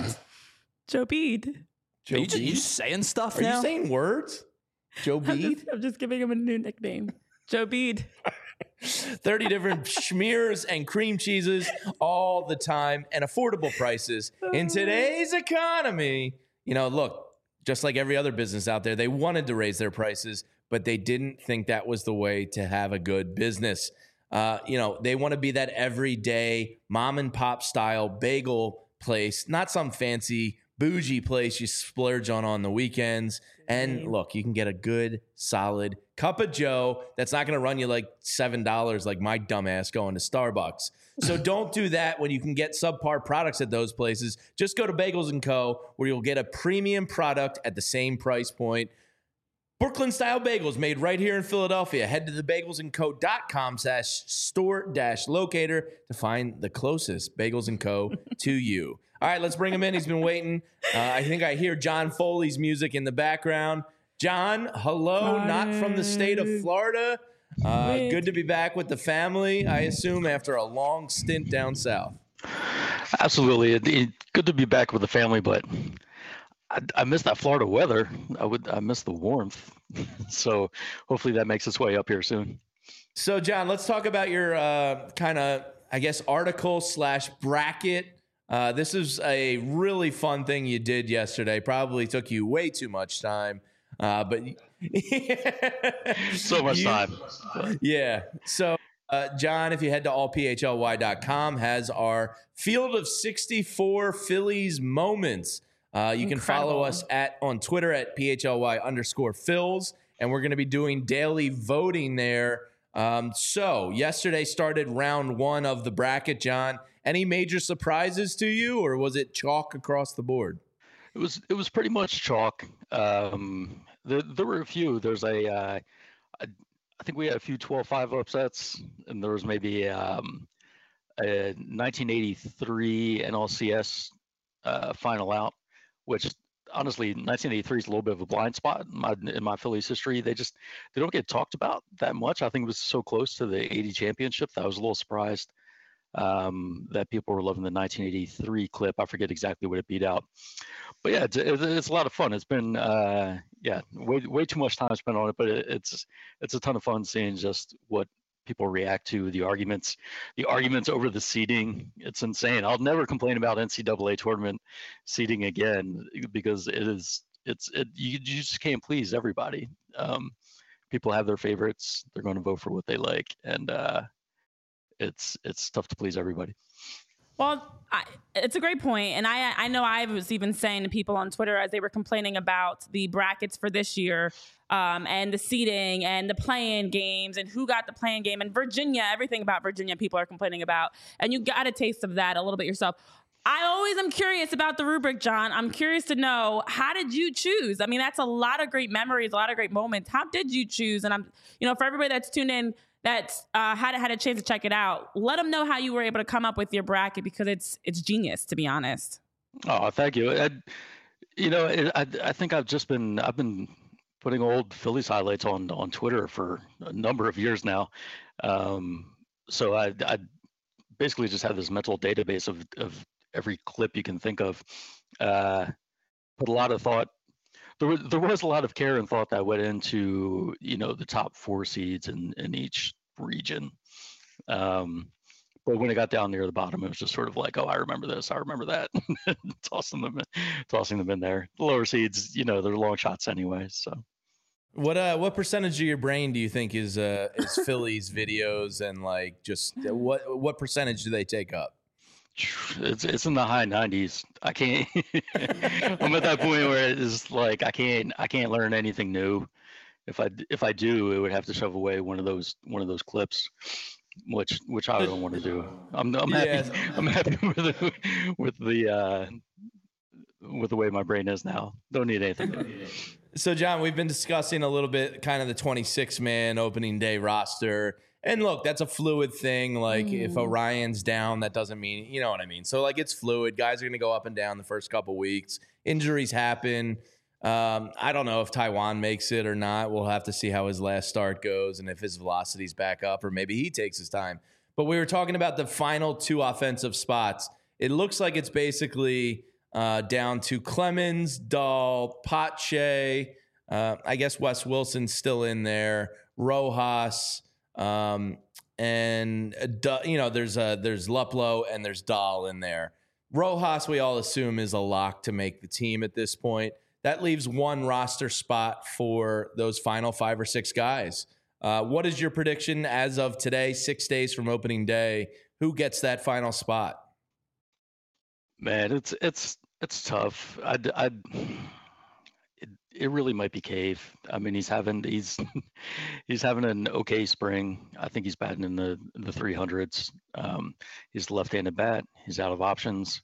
Joe Bede. Joe Are you, just, you Bede? just saying stuff Are now? you saying words? Joe I'm Bede? just, I'm just giving him a new nickname. Joe Bede. thirty different schmears and cream cheeses all the time, and affordable prices. In today's economy, you know, look, just like every other business out there, they wanted to raise their prices, but they didn't think that was the way to have a good business. Uh, you know, they want to be that everyday mom and pop style bagel place, not some fancy bougie place you splurge on on the weekends. And look, you can get a good, solid cup of Joe that's not going to run you like seven dollars like my dumbass going to Starbucks. So don't do that when you can get subpar products at those places. Just go to Bagels and Co., where you'll get a premium product at the same price point. Brooklyn-style bagels made right here in Philadelphia. Head to the bagels and co dot com slash store dash locator to find the closest Bagels and Co. to you. All right, let's bring him in. He's been waiting. Uh, I think I hear John Foley's music in the background. John, hello, Hi. not from the state of Florida. Uh, good to be back with the family, I assume, after a long stint down south. Absolutely. It, it, good to be back with the family, but I, I miss that Florida weather. I would I miss the warmth. So hopefully that makes its way up here soon. So, John, let's talk about your uh, kind of, I guess, article slash bracket. Uh, this is a really fun thing you did yesterday. Probably took you way too much time, uh, but So much You- time. Yeah. So, uh, John, if you head to all p h l y dot com, has our Field of sixty-four Phillies moments. Uh, you can follow Incredible. us at on Twitter at P H L Y underscore Phils, and we're going to be doing daily voting there. Um, so yesterday started round one of the bracket, John. Any major surprises to you, or was it chalk across the board? It was it was pretty much chalk. Um, there, there were a few. There's a uh, I, I think we had a few twelve five upsets, and there was maybe um, a nineteen eighty-three N L C S uh, final out, which honestly nineteen eighty-three is a little bit of a blind spot in my in my Phillies history. They just they don't get talked about that much. I think it was so close to the eighty championship that I was a little surprised. um, that people were loving the nineteen eighty-three clip. I forget exactly what it beat out, but yeah, it's, it's a lot of fun. It's been uh, yeah, way way too much time spent on it, but it, it's it's a ton of fun seeing just what people react to, the arguments, the arguments over the seeding. It's insane. I'll never complain about N C double A tournament seeding again because it is it's it you, you just can't please everybody. Um, people have their favorites. They're going to vote for what they like, and uh, it's it's tough to please everybody. Well, I, it's a great point. And I I know I was even saying to people on Twitter as they were complaining about the brackets for this year um, and the seeding and the play-in games and who got the play-in game and Virginia, everything about Virginia people are complaining about. And you got a taste of that a little bit yourself. I always am curious about the rubric, John. I'm curious to know, how did you choose? I mean, that's a lot of great memories, a lot of great moments. How did you choose? And I'm, you know, for everybody that's tuned in, that's uh, had had a chance to check it out, let them know how you were able to come up with your bracket, because it's it's genius, to be honest. Oh, thank you. I, you know, it, I I think I've just been I've been putting old Phillies highlights on on Twitter for a number of years now. Um, so I I basically just have this mental database of of every clip you can think of. Uh, put a lot of thought. There was there was a lot of care and thought that went into, you know, the top four seeds in, in each region. Um, but when it got down near the bottom, it was just sort of like, oh, I remember this, I remember that, tossing them, in, tossing them in there. The lower seeds, you know, they're long shots anyway. So, what uh, what percentage of your brain do you think is uh, is Phillies videos, and like just uh, what what percentage do they take up? It's it's in the high nineties. I can't. I'm at that point where it's like I can't I can't learn anything new. If I if I do, it would have to shove away one of those one of those clips, which which I don't want to do. I'm I'm happy yes. I'm happy with the, with the uh, with the way my brain is now. Don't need anything new. So John, we've been discussing a little bit kind of the twenty-six man opening day roster. And look, that's a fluid thing. Like mm. if Orion's down, that doesn't mean, you know what I mean? So like it's fluid. Guys are going to go up and down the first couple weeks. Injuries happen. Um, I don't know if Taijuan makes it or not. We'll have to see how his last start goes and if his velocity's back up, or maybe he takes his time. But we were talking about the final two offensive spots. It looks like it's basically uh, down to Clemens, Dahl, Pache. Uh, I guess Wes Wilson's still in there. Rojas. Um, and, uh, you know, there's uh, there's Luplow and there's Dahl in there. Rojas, we all assume, is a lock to make the team at this point. That leaves one roster spot for those final five or six guys. Uh, what is your prediction as of today, six days from opening day? Who gets that final spot? Man, it's it's it's tough. I'd, I'd it, it really might be Cave. I mean, he's having he's he's having an okay spring. I think he's batting in the the three hundreds. Um, he's a left-handed bat. He's out of options.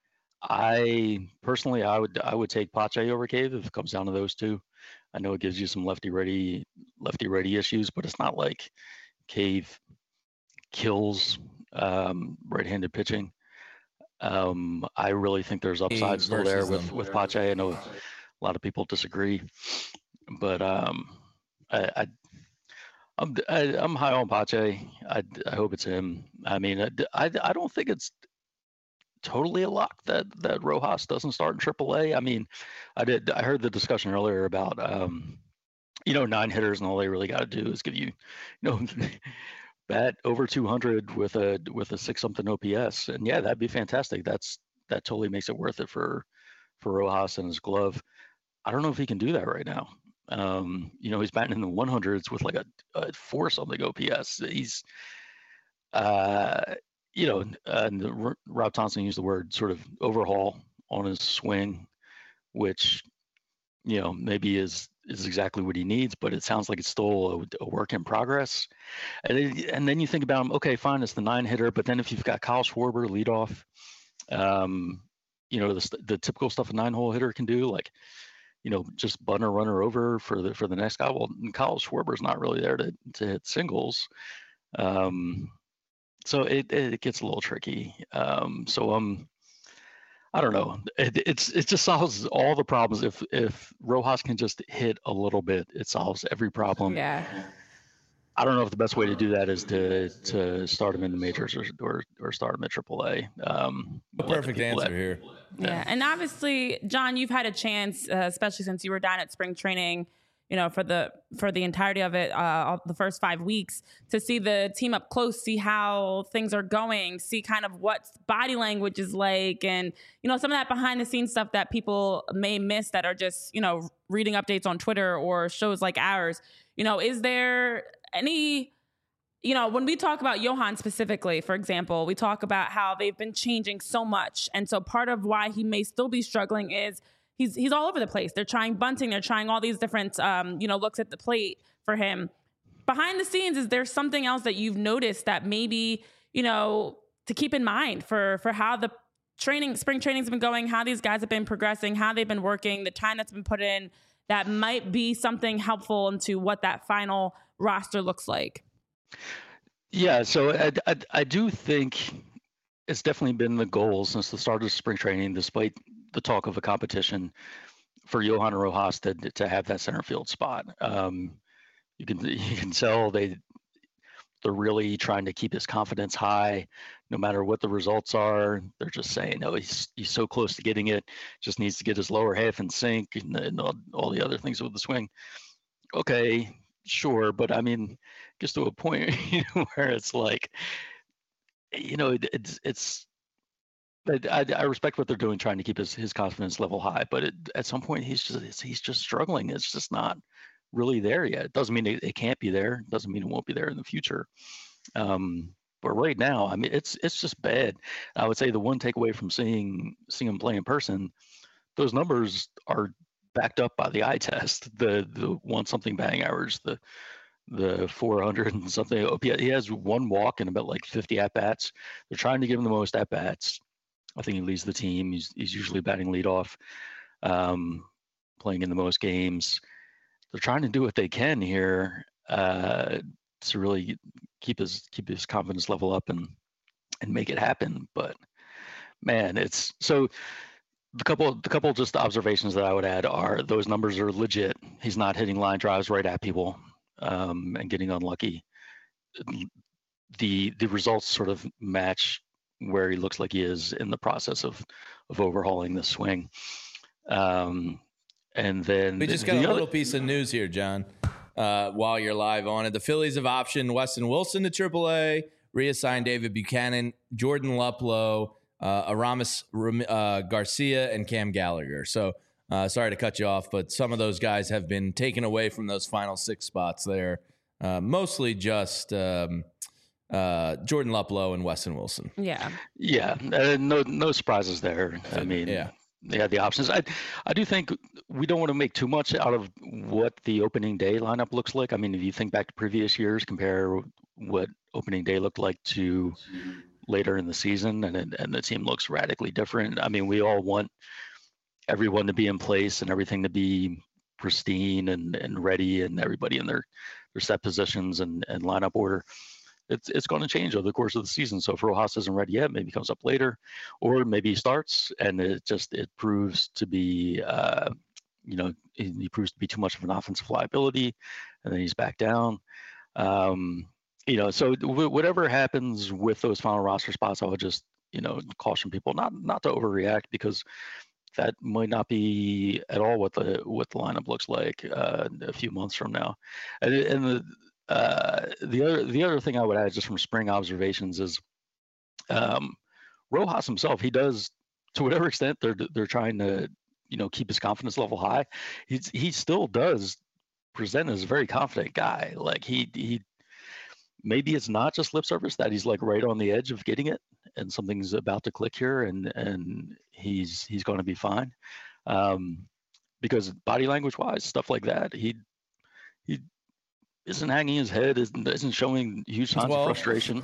I personally, I would I would take Pache over Cave if it comes down to those two. I know it gives you some lefty ready lefty ready issues, but it's not like Cave kills um, right-handed pitching. Um, I really think there's upside still there with with Pache. I know a lot of people disagree, but um, I, I I'm I, I'm high on Pache. I, I hope it's him. I mean, I, I, I don't think it's totally a lock that that Rojas doesn't start in triple A. I mean, I did I heard the discussion earlier about um, you know, nine hitters and all they really got to do is give you, you know, bat over two hundred with a with a six something O P S, and yeah, that'd be fantastic. That's that totally makes it worth it for for Rojas and his glove. I don't know if he can do that right now. Um, you know, he's batting in the one hundreds with like a, a four something O P S. He's uh you know, uh, and Rob Thompson used the word sort of overhaul on his swing, which, you know, maybe is is exactly what he needs, but it sounds like it's still a, a work in progress. And it, and then you think about him, okay, fine, it's the nine hitter, but then if you've got Kyle Schwarber lead off, um, you know, the the typical stuff a nine hole hitter can do, like, you know, just bun a runner over for the for the next guy. Well, Kyle Schwarber's not really there to to hit singles. Um, So it, it gets a little tricky. Um, so um, I don't know. It, it's it just solves all the problems. If if Rojas can just hit a little bit, it solves every problem. Yeah. I don't know if the best way to do that is to to start him in the majors or or, or start him at triple A. Um, a perfect answer that, here. Yeah. yeah, and obviously, John, you've had a chance, uh, especially since you were down at spring training, you know, for the for the entirety of it, uh, the first five weeks, to see the team up close, see how things are going, see kind of what body language is like, and, you know, some of that behind the scenes stuff that people may miss that are just, you know, reading updates on Twitter or shows like ours. You know, is there any, you know, when we talk about Johan specifically, for example, we talk about how they've been changing so much. And so part of why he may still be struggling is he's he's all over the place. They're trying bunting. They're trying all these different, um, you know, looks at the plate for him. Behind the scenes, is there something else that you've noticed that maybe, you know, to keep in mind for for how the training, spring training's been going, how these guys have been progressing, how they've been working, the time that's been put in, that might be something helpful into what that final roster looks like? Yeah, so I, I, I do think it's definitely been the goal since the start of spring training, despite the talk of a competition, for Johan Rojas to to have that center field spot. Um, you can you can tell they they're really trying to keep his confidence high, no matter what the results are. They're just saying, "Oh, he's he's so close to getting it. Just needs to get his lower half in sync and, and all, all the other things with the swing." Okay, sure, but I mean, it gets to a point you know, where it's like, you know, it, it's it's. I, I respect what they're doing, trying to keep his, his confidence level high, but it, at some point he's just he's just struggling. It's just not really there yet. It doesn't mean it, it can't be there. It doesn't mean it won't be there in the future. Um, but right now, I mean, it's it's just bad. I would say the one takeaway from seeing seeing him play in person, those numbers are backed up by the eye test. The the one something batting average, the the four hundred and something. He has one walk and about like fifty at bats. They're trying to give him the most at bats. I think he leads the team. He's he's usually batting leadoff, um, playing in the most games. They're trying to do what they can here uh, to really keep his keep his confidence level up and and make it happen. But man, it's so the couple the couple just observations that I would add are those numbers are legit. He's not hitting line drives right at people um, and getting unlucky. The the results sort of match where he looks like he is in the process of of overhauling the swing. Um, and then we just the, got the a other, little piece of news here, John. Uh, while you're live on it, the Phillies have optioned Weston Wilson to triple A, reassigned David Buchanan, Jordan Luplow, uh, Aramis uh, Garcia, and Cam Gallagher. So uh, sorry to cut you off, but some of those guys have been taken away from those final six spots there. Uh, mostly just um, uh, Jordan Luplow and Weston Wilson. Yeah. Yeah. Uh, no, no surprises there. I mean, yeah. They had the options. I, I do think we don't want to make too much out of what the opening day lineup looks like. I mean, if you think back to previous years, compare what opening day looked like to later in the season, and and the team looks radically different. I mean, we all want everyone to be in place and everything to be pristine and, and ready, and everybody in their, their set positions and, and lineup order. It's it's going to change over the course of the season. So if Rojas isn't ready yet, maybe comes up later, or maybe he starts and it just it proves to be, uh, you know, he, he proves to be too much of an offensive liability, and then he's back down. Um, you know, so w- whatever happens with those final roster spots, I would just you know caution people not not to overreact, because that might not be at all what the what the lineup looks like uh, a few months from now, and and the. Uh, the other the other thing I would add just from spring observations is um, Rojas himself. He does, to whatever extent they're they're trying to you know keep his confidence level high. He's he still does present as a very confident guy. Like he he maybe it's not just lip service that he's like right on the edge of getting it and something's about to click here and and he's he's going to be fine. Um, because body language wise, stuff like that, he he. isn't hanging his head, isn't, isn't showing huge signs well. of frustration.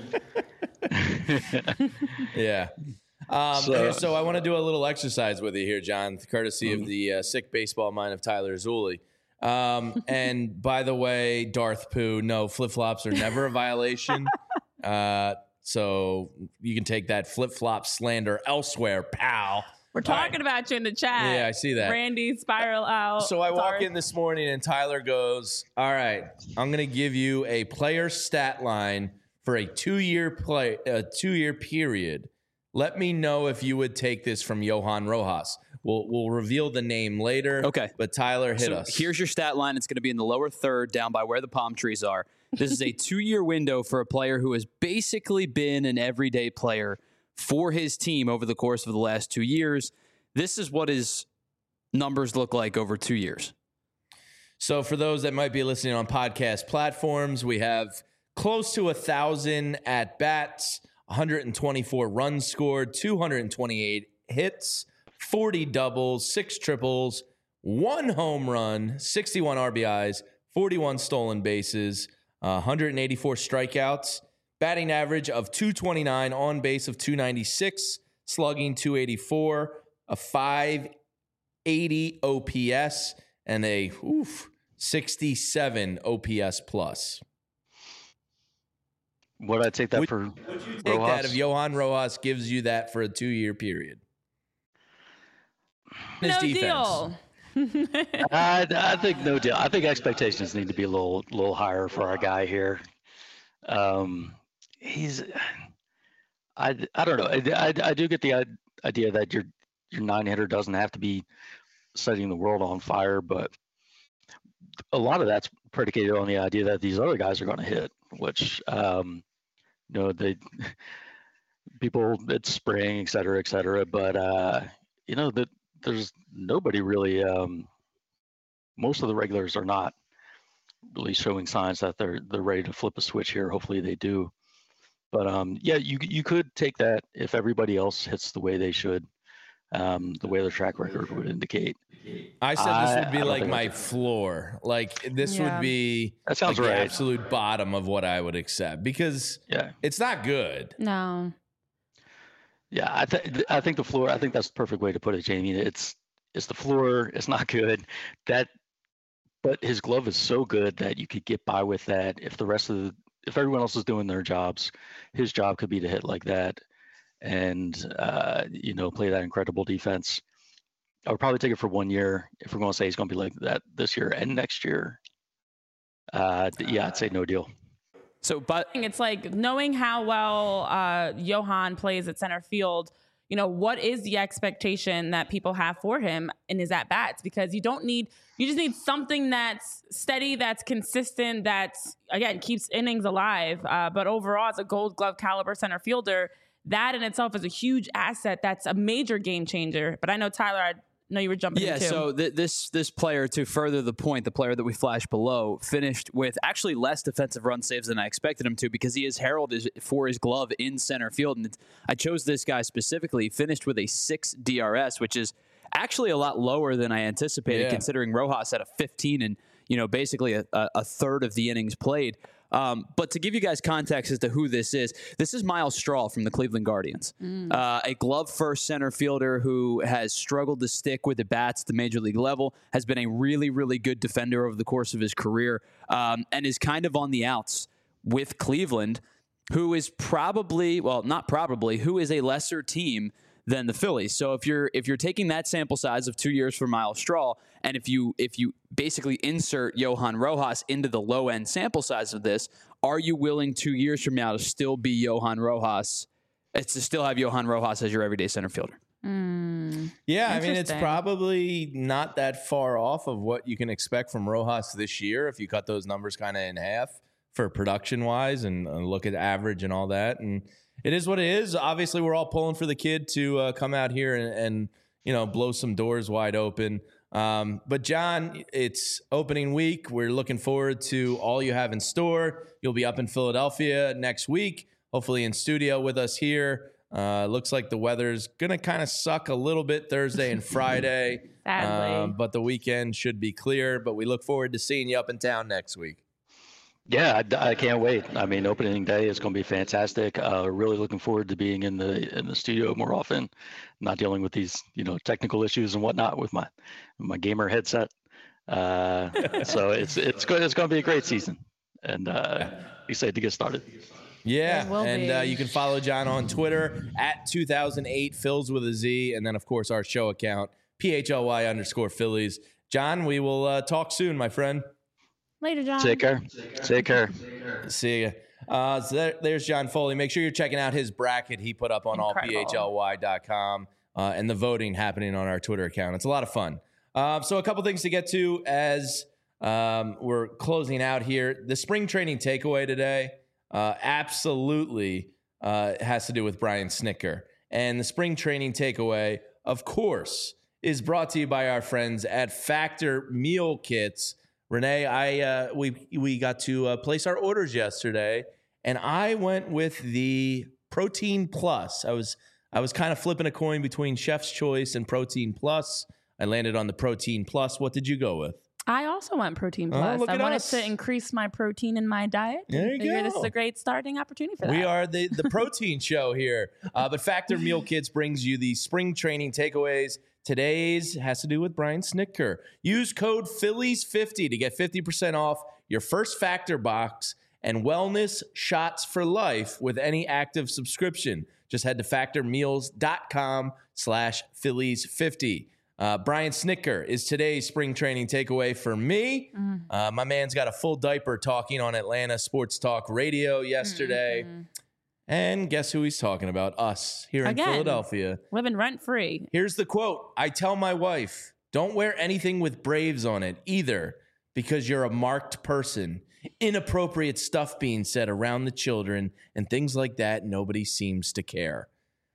yeah. Um, so, here, so I want to do a little exercise with you here, John, courtesy mm-hmm. of the uh, sick baseball mind of Tyler Zulli. Um, and by the way, Darth Pooh, no, flip-flops are never a violation. Uh, so you can take that flip-flop slander elsewhere, pal. We're talking right. about you in the chat. Yeah, I see that. Randy spiral out. So I Sorry. walk in this morning and Tyler goes, all right, I'm going to give you a player stat line for a two-year play, a two-year period. Let me know if you would take this from Johan Rojas. We'll we'll reveal the name later. Okay. But Tyler, hit so us. Here's your stat line. It's going to be in the lower third down by where the palm trees are. This is a two-year window for a player who has basically been an everyday player for his team over the course of the last two years. This is what his numbers look like over two years. So for those that might be listening on podcast platforms, we have close to one thousand at-bats, one hundred twenty-four runs scored, two hundred twenty-eight hits, forty doubles, six triples, one home run, sixty-one R B Is, forty-one stolen bases, uh, one hundred eighty-four strikeouts, batting average of two twenty-nine, on base of two ninety-six, slugging two eighty-four, a five eighty O P S, and a oof, sixty-seven O P S plus. Would I take that would, for would you take Rojas? that if Johan Rojas gives you that for a two-year period? His no defense. deal. I, I think no deal. I think expectations need to be a little little higher for our guy here. Um, he's, I, I don't know. I, I, I do get the idea that your your nine hitter doesn't have to be setting the world on fire, but a lot of that's predicated on the idea that these other guys are going to hit, which um, you know they people it's spring, et cetera, et cetera. But uh, you know that there's nobody really. Um, most of the regulars are not really showing signs that they're they're ready to flip a switch here. Hopefully they do. But um, yeah, you you could take that if everybody else hits the way they should, um, the way their track record would indicate. I said this would be I, I like my floor. Like this Yeah. would be That sounds like right. the absolute bottom of what I would accept because Yeah, it's not good. No. yeah. I think I think the floor. I think that's the perfect way to put it, Jamie. It's it's the floor. It's not good. That, but his glove is so good that you could get by with that. If the rest of the if everyone else is doing their jobs, his job could be to hit like that, and uh, you know play that incredible defense. I would probably take it for one year if we're going to say he's going to be like that this year and next year. Uh, yeah, I'd say no deal. So, but It's like knowing how well uh, Johan plays at center field. You know, what is the expectation that people have for him in his at bats? Because you don't need, you just need something that's steady, that's consistent, that's again keeps innings alive. Uh, but overall, as a Gold Glove caliber center fielder, that in itself is a huge asset. That's a major game changer. But I know Tyler, I know you were jumping yeah, in too. so th- this this player, to further the point, the player that we flashed below, finished with actually less defensive run saves than I expected him to because he is heralded for his glove in center field. And I chose this guy specifically. He finished with a six D R S, which is actually a lot lower than I anticipated, Yeah. considering Rojas had a fifteen and you know basically a, a third of the innings played. Um, but to give you guys context as to who this is, this is Miles Straw from the Cleveland Guardians, mm. uh, a glove-first center fielder who has struggled to stick with the bats at the major league level, has been a really, really good defender over the course of his career, um, and is kind of on the outs with Cleveland, who is probably, well, not probably, who is a lesser team than the Phillies. So if you're if you're taking that sample size of two years for Miles Straw, and if you if you basically insert Johan Rojas into the low end sample size of this, are you willing two years from now to still be Johan Rojas? It's to still have Johan Rojas as your everyday center fielder. Mm, Yeah, I mean, it's interesting. probably not that far off of what you can expect from Rojas this year if you cut those numbers kind of in half for production wise and uh, look at average and all that. And it is what it is. Obviously, we're all pulling for the kid to uh, come out here and, and, you know, blow some doors wide open. Um, but, John, it's opening week. We're looking forward to all you have in store. You'll be up in Philadelphia next week, hopefully in studio with us here. Uh, looks like the weather's going to kind of suck a little bit Thursday and Friday. Sadly. Um, but the weekend should be clear. But we look forward to seeing you up in town next week. Yeah, I, I can't wait. I mean, opening day is going to be fantastic. Uh, really looking forward to being in the in the studio more often, not dealing with these you know technical issues and whatnot with my my gamer headset. Uh, so it's it's going it's going to be a great season, and uh, excited to get started. Yeah, There will and be. uh, you can follow John on Twitter at two thousand eight Phils with a Z, and then of course our show account P H L Y underscore Phillies. John, we will uh, talk soon, my friend. Later, John. Take care. Take care. See ya. Uh, so there, there's John Foley. Make sure you're checking out his bracket he put up on all Incredible. P H L Y dot com uh, and the voting happening on our Twitter account. It's a lot of fun. Uh, so a couple things to get to as um, we're closing out here. The spring training takeaway today uh, absolutely uh, has to do with Brian Snitker. And the spring training takeaway, of course, is brought to you by our friends at Factor Meal Kits. Renee, I uh, we we got to uh, place our orders yesterday, and I went with the Protein Plus. I was I was kind of flipping a coin between Chef's Choice and Protein Plus. I landed on the Protein Plus. What did you go with? I also want Protein Oh, Plus. look I at wanted us. to increase my protein in my diet. There you Figured go. This is a great starting opportunity for that. We are the, the protein show here. Uh, but Factor Meal Kits brings you the spring training takeaways. Today's has to do with Brian Snitker. Use code Phillies fifty to get fifty percent off your first Factor box and wellness shots for life with any active subscription. Just head to factormeals.com slash Phillies fifty. Uh, Brian Snitker is today's spring training takeaway for me. Mm. Uh, my man's got a full diaper talking on Atlanta Sports Talk Radio yesterday. Mm-hmm. And guess who he's talking about? Us here in Again. Philadelphia. Living rent free. Here's the quote. I tell my wife, don't wear anything with Braves on it either because you're a marked person. Inappropriate stuff being said around the children and things like that. Nobody seems to care.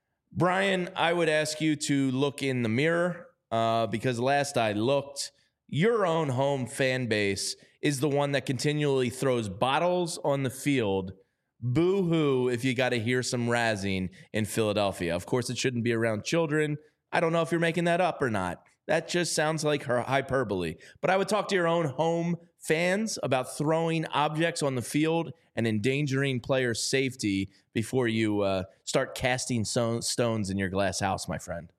Brian, I would ask you to look in the mirror uh, because last I looked, your own home fan base is the one that continually throws bottles on the field. Boo-hoo if you got to hear some razzing in Philadelphia. Of course, it shouldn't be around children. I don't know if you're making that up or not. That just sounds like her hyperbole. But I would talk to your own home fans about throwing objects on the field and endangering players' safety before you uh, start casting so- stones in your glass house, my friend.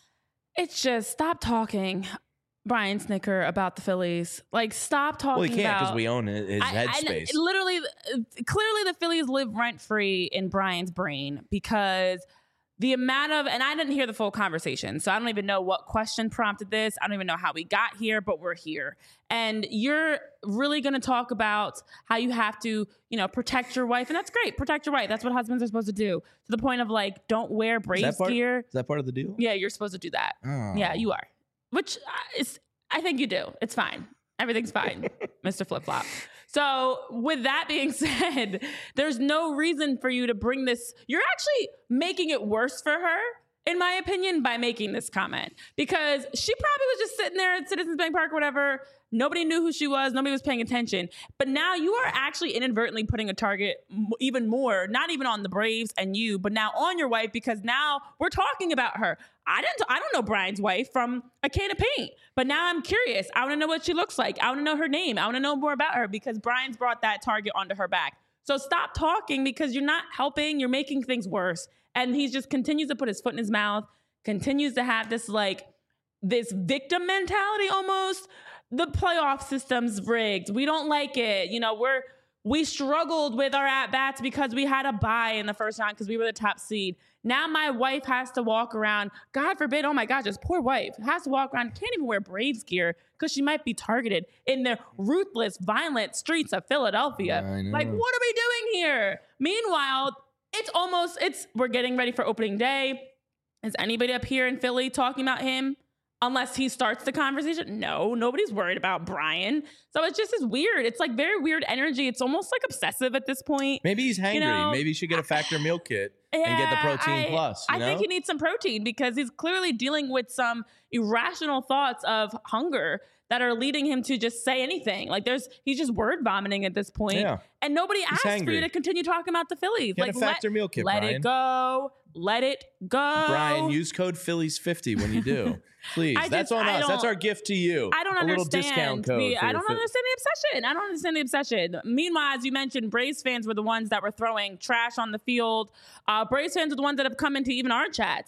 It's just stop talking, Brian Snitker, about the Phillies. Like, stop talking Well, he can't because about- we own it, his I- I- headspace. literally, uh, clearly, the Phillies live rent free in Brian's brain because the amount of, and I didn't hear the full conversation, so I don't even know what question prompted this. I don't even know how we got here, but we're here. And you're really going to talk about how you have to, you know, protect your wife. And that's great. Protect your wife. That's what husbands are supposed to do. To the point of like, don't wear is, Braves that part, gear. is that part of the deal? Yeah, you're supposed to do that. Oh. Yeah, you are. Which uh, is, I think you do. It's fine. Everything's fine, Mister Flip Flop. So with that being said, there's no reason for you to bring this. You're actually making it worse for her, in my opinion, by making this comment. Because she probably was just sitting there at Citizens Bank Park or whatever. Nobody knew who she was. Nobody was paying attention. But now you are actually inadvertently putting a target m- even more, not even on the Braves and you, but now on your wife, because now we're talking about her. I didn't. I don't know Brian's wife from a can of paint, but now I'm curious. I want to know what she looks like. I want to know her name. I want to know more about her because Brian's brought that target onto her back. So stop talking because you're not helping. You're making things worse. And he just continues to put his foot in his mouth, continues to have this like this victim mentality almost. The playoff system's rigged. We don't like it. You know, we're we struggled with our at-bats because we had a bye in the first round because we were the top seed. Now my wife has to walk around, God forbid, oh my gosh, this poor wife has to walk around, can't even wear Braves gear because she might be targeted in the ruthless, violent streets of Philadelphia. I know. Like, what are we doing here? Meanwhile, it's almost, it's we're getting ready for opening day. Is anybody up here in Philly talking about him? Unless he starts the conversation. No, nobody's worried about Brian. So it's just as weird. It's like very weird energy. It's almost like obsessive at this point. Maybe he's hangry. You know, Maybe you should get a Factor Meal Kit and get the Yeah, Protein I, Plus. You I know? think he needs some protein because he's clearly dealing with some irrational thoughts of hunger that are leading him to just say anything. Like there's, he's just word vomiting at this point. Yeah. And nobody asked for hangry. you to continue talking about the Phillies. Get like a Factor let, Meal Kit, let Brian. it go. Let it go. Brian, use code Phillies fifty when you do. Please. I That's just- on I us. That's don't- our gift to you. I don't a understand. little discount code. the- for I your don't Phil- understand the obsession. I don't understand the obsession. Meanwhile, as you mentioned, Braves fans were the ones that were throwing trash on the field. Uh, Braves fans are the ones that have come into even our chats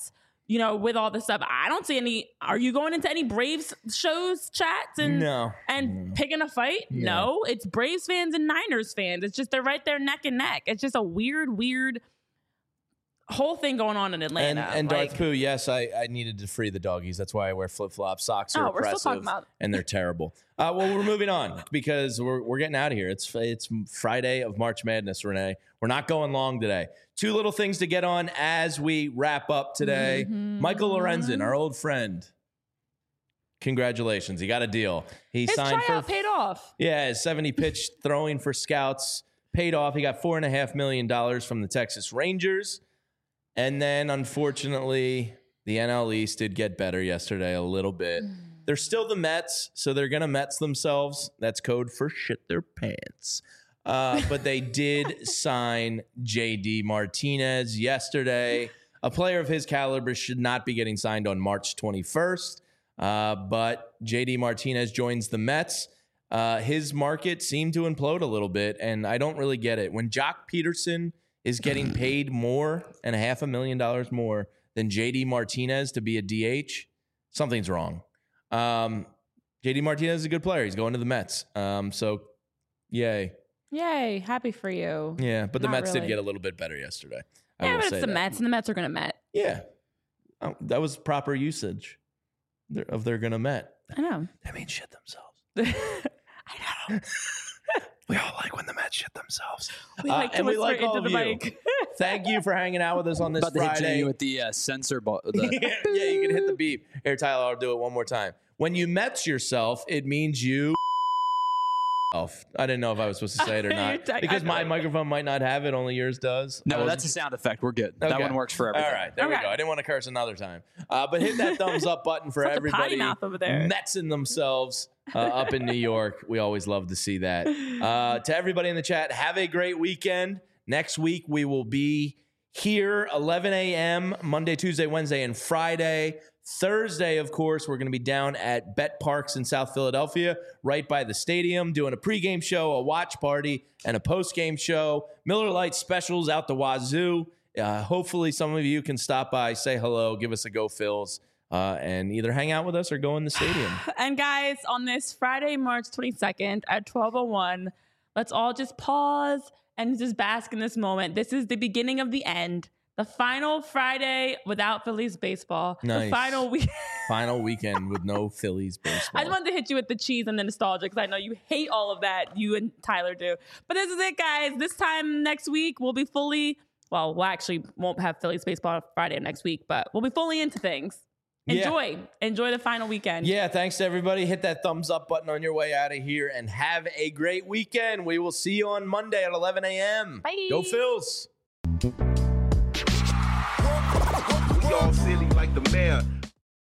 you know, with all this stuff. I don't see any. Are you going into any Braves shows, chats, and No. and No. picking a fight? No. No, it's Braves fans and Niners fans. It's just they're right there neck and neck. It's just a weird, weird whole thing going on in And, Atlanta. and like, Darth Pooh, yes, I, I needed to free the doggies. That's why I wear flip flops. Socks are Oh, we're still oppressive, talking about- and they're terrible. Uh, well, we're moving on because we're we're getting out of here. It's it's Friday of March Madness, Renee. We're not going long today. Two little things to get on as we wrap up today. Mhm. Michael Lorenzen, our old friend. Congratulations, he got a deal. He his signed tryout for paid off. yeah, his seventy pitch throwing for scouts paid off. He got four and a half million dollars from the Texas Rangers. And then, unfortunately, the N L East did get better yesterday a little bit. They're still the Mets, so they're going to Mets themselves. That's code for shit their pants. Uh, but they did sign J D Martinez yesterday. A player of his caliber should not be getting signed on March twenty-first. Uh, but J D Martinez joins the Mets. Uh, his market seemed to implode a little bit, and I don't really get it. When Jock Peterson is getting paid more and a half a million dollars more than J D Martinez to be a D H, something's wrong. Um, J D Martinez is a good player. He's going to the Mets. Um, so, yay. Yay, happy for you. Yeah, but the Not Mets really. did get a little bit better yesterday. I Yeah, will but say it's the that. Mets, and the Mets are going to Met. Yeah. Oh, that was proper usage of they're going to Met. I know. That means shit themselves. I know. We all like when the Mets shit themselves. We Uh, like to and we whisper like into all the of you. mic. Thank you for hanging out with us on this About to hit Friday. Jenny with the uh, sensor ball. The, yeah, yeah, you can hit the beep. Here, Tyler, I'll do it one more time. When you Mets yourself, it means you. I didn't know if I was supposed to say it or not I- because I- my microphone might not have it. Only yours does. I no, wasn't that's a sound effect. We're good. That Okay. one works for everything. All right, there we Okay. go. I didn't want to curse another time, uh, but hit that thumbs up button for Such a potty everybody. mouth over there. Metsing themselves uh, up in New York. We always love to see that. Uh, to everybody in the chat, have a great weekend. Next week we will be here eleven a.m. Monday, Tuesday, Wednesday, and Friday. Thursday, of course, we're going to be down at Bet Parks in South Philadelphia, right by the stadium, doing a pregame show, a watch party, and a postgame show. Miller Lite specials out the wazoo. Uh, hopefully, some of you can stop by, say hello, give us a go, Phils, uh, and either hang out with us or go in the stadium. And guys, on this Friday, March twenty-second at twelve oh one, let's all just pause and just bask in this moment. This is the beginning of the end. The final Friday without Phillies baseball. Nice. The final week. Final weekend with no Phillies baseball. I just wanted to hit you with the cheese and the nostalgia because I know you hate all of that. You and Tyler do. But this is it, guys. This time next week, we'll be fully, well, we actually won't have Phillies baseball Friday next week, but we'll be fully into things. Yeah. Enjoy. Enjoy the final weekend. Yeah, thanks to everybody. Hit that thumbs up button on your way out of here and have a great weekend. We will see you on Monday at eleven a.m. Bye. Go Phils. Y'all silly like the mayor.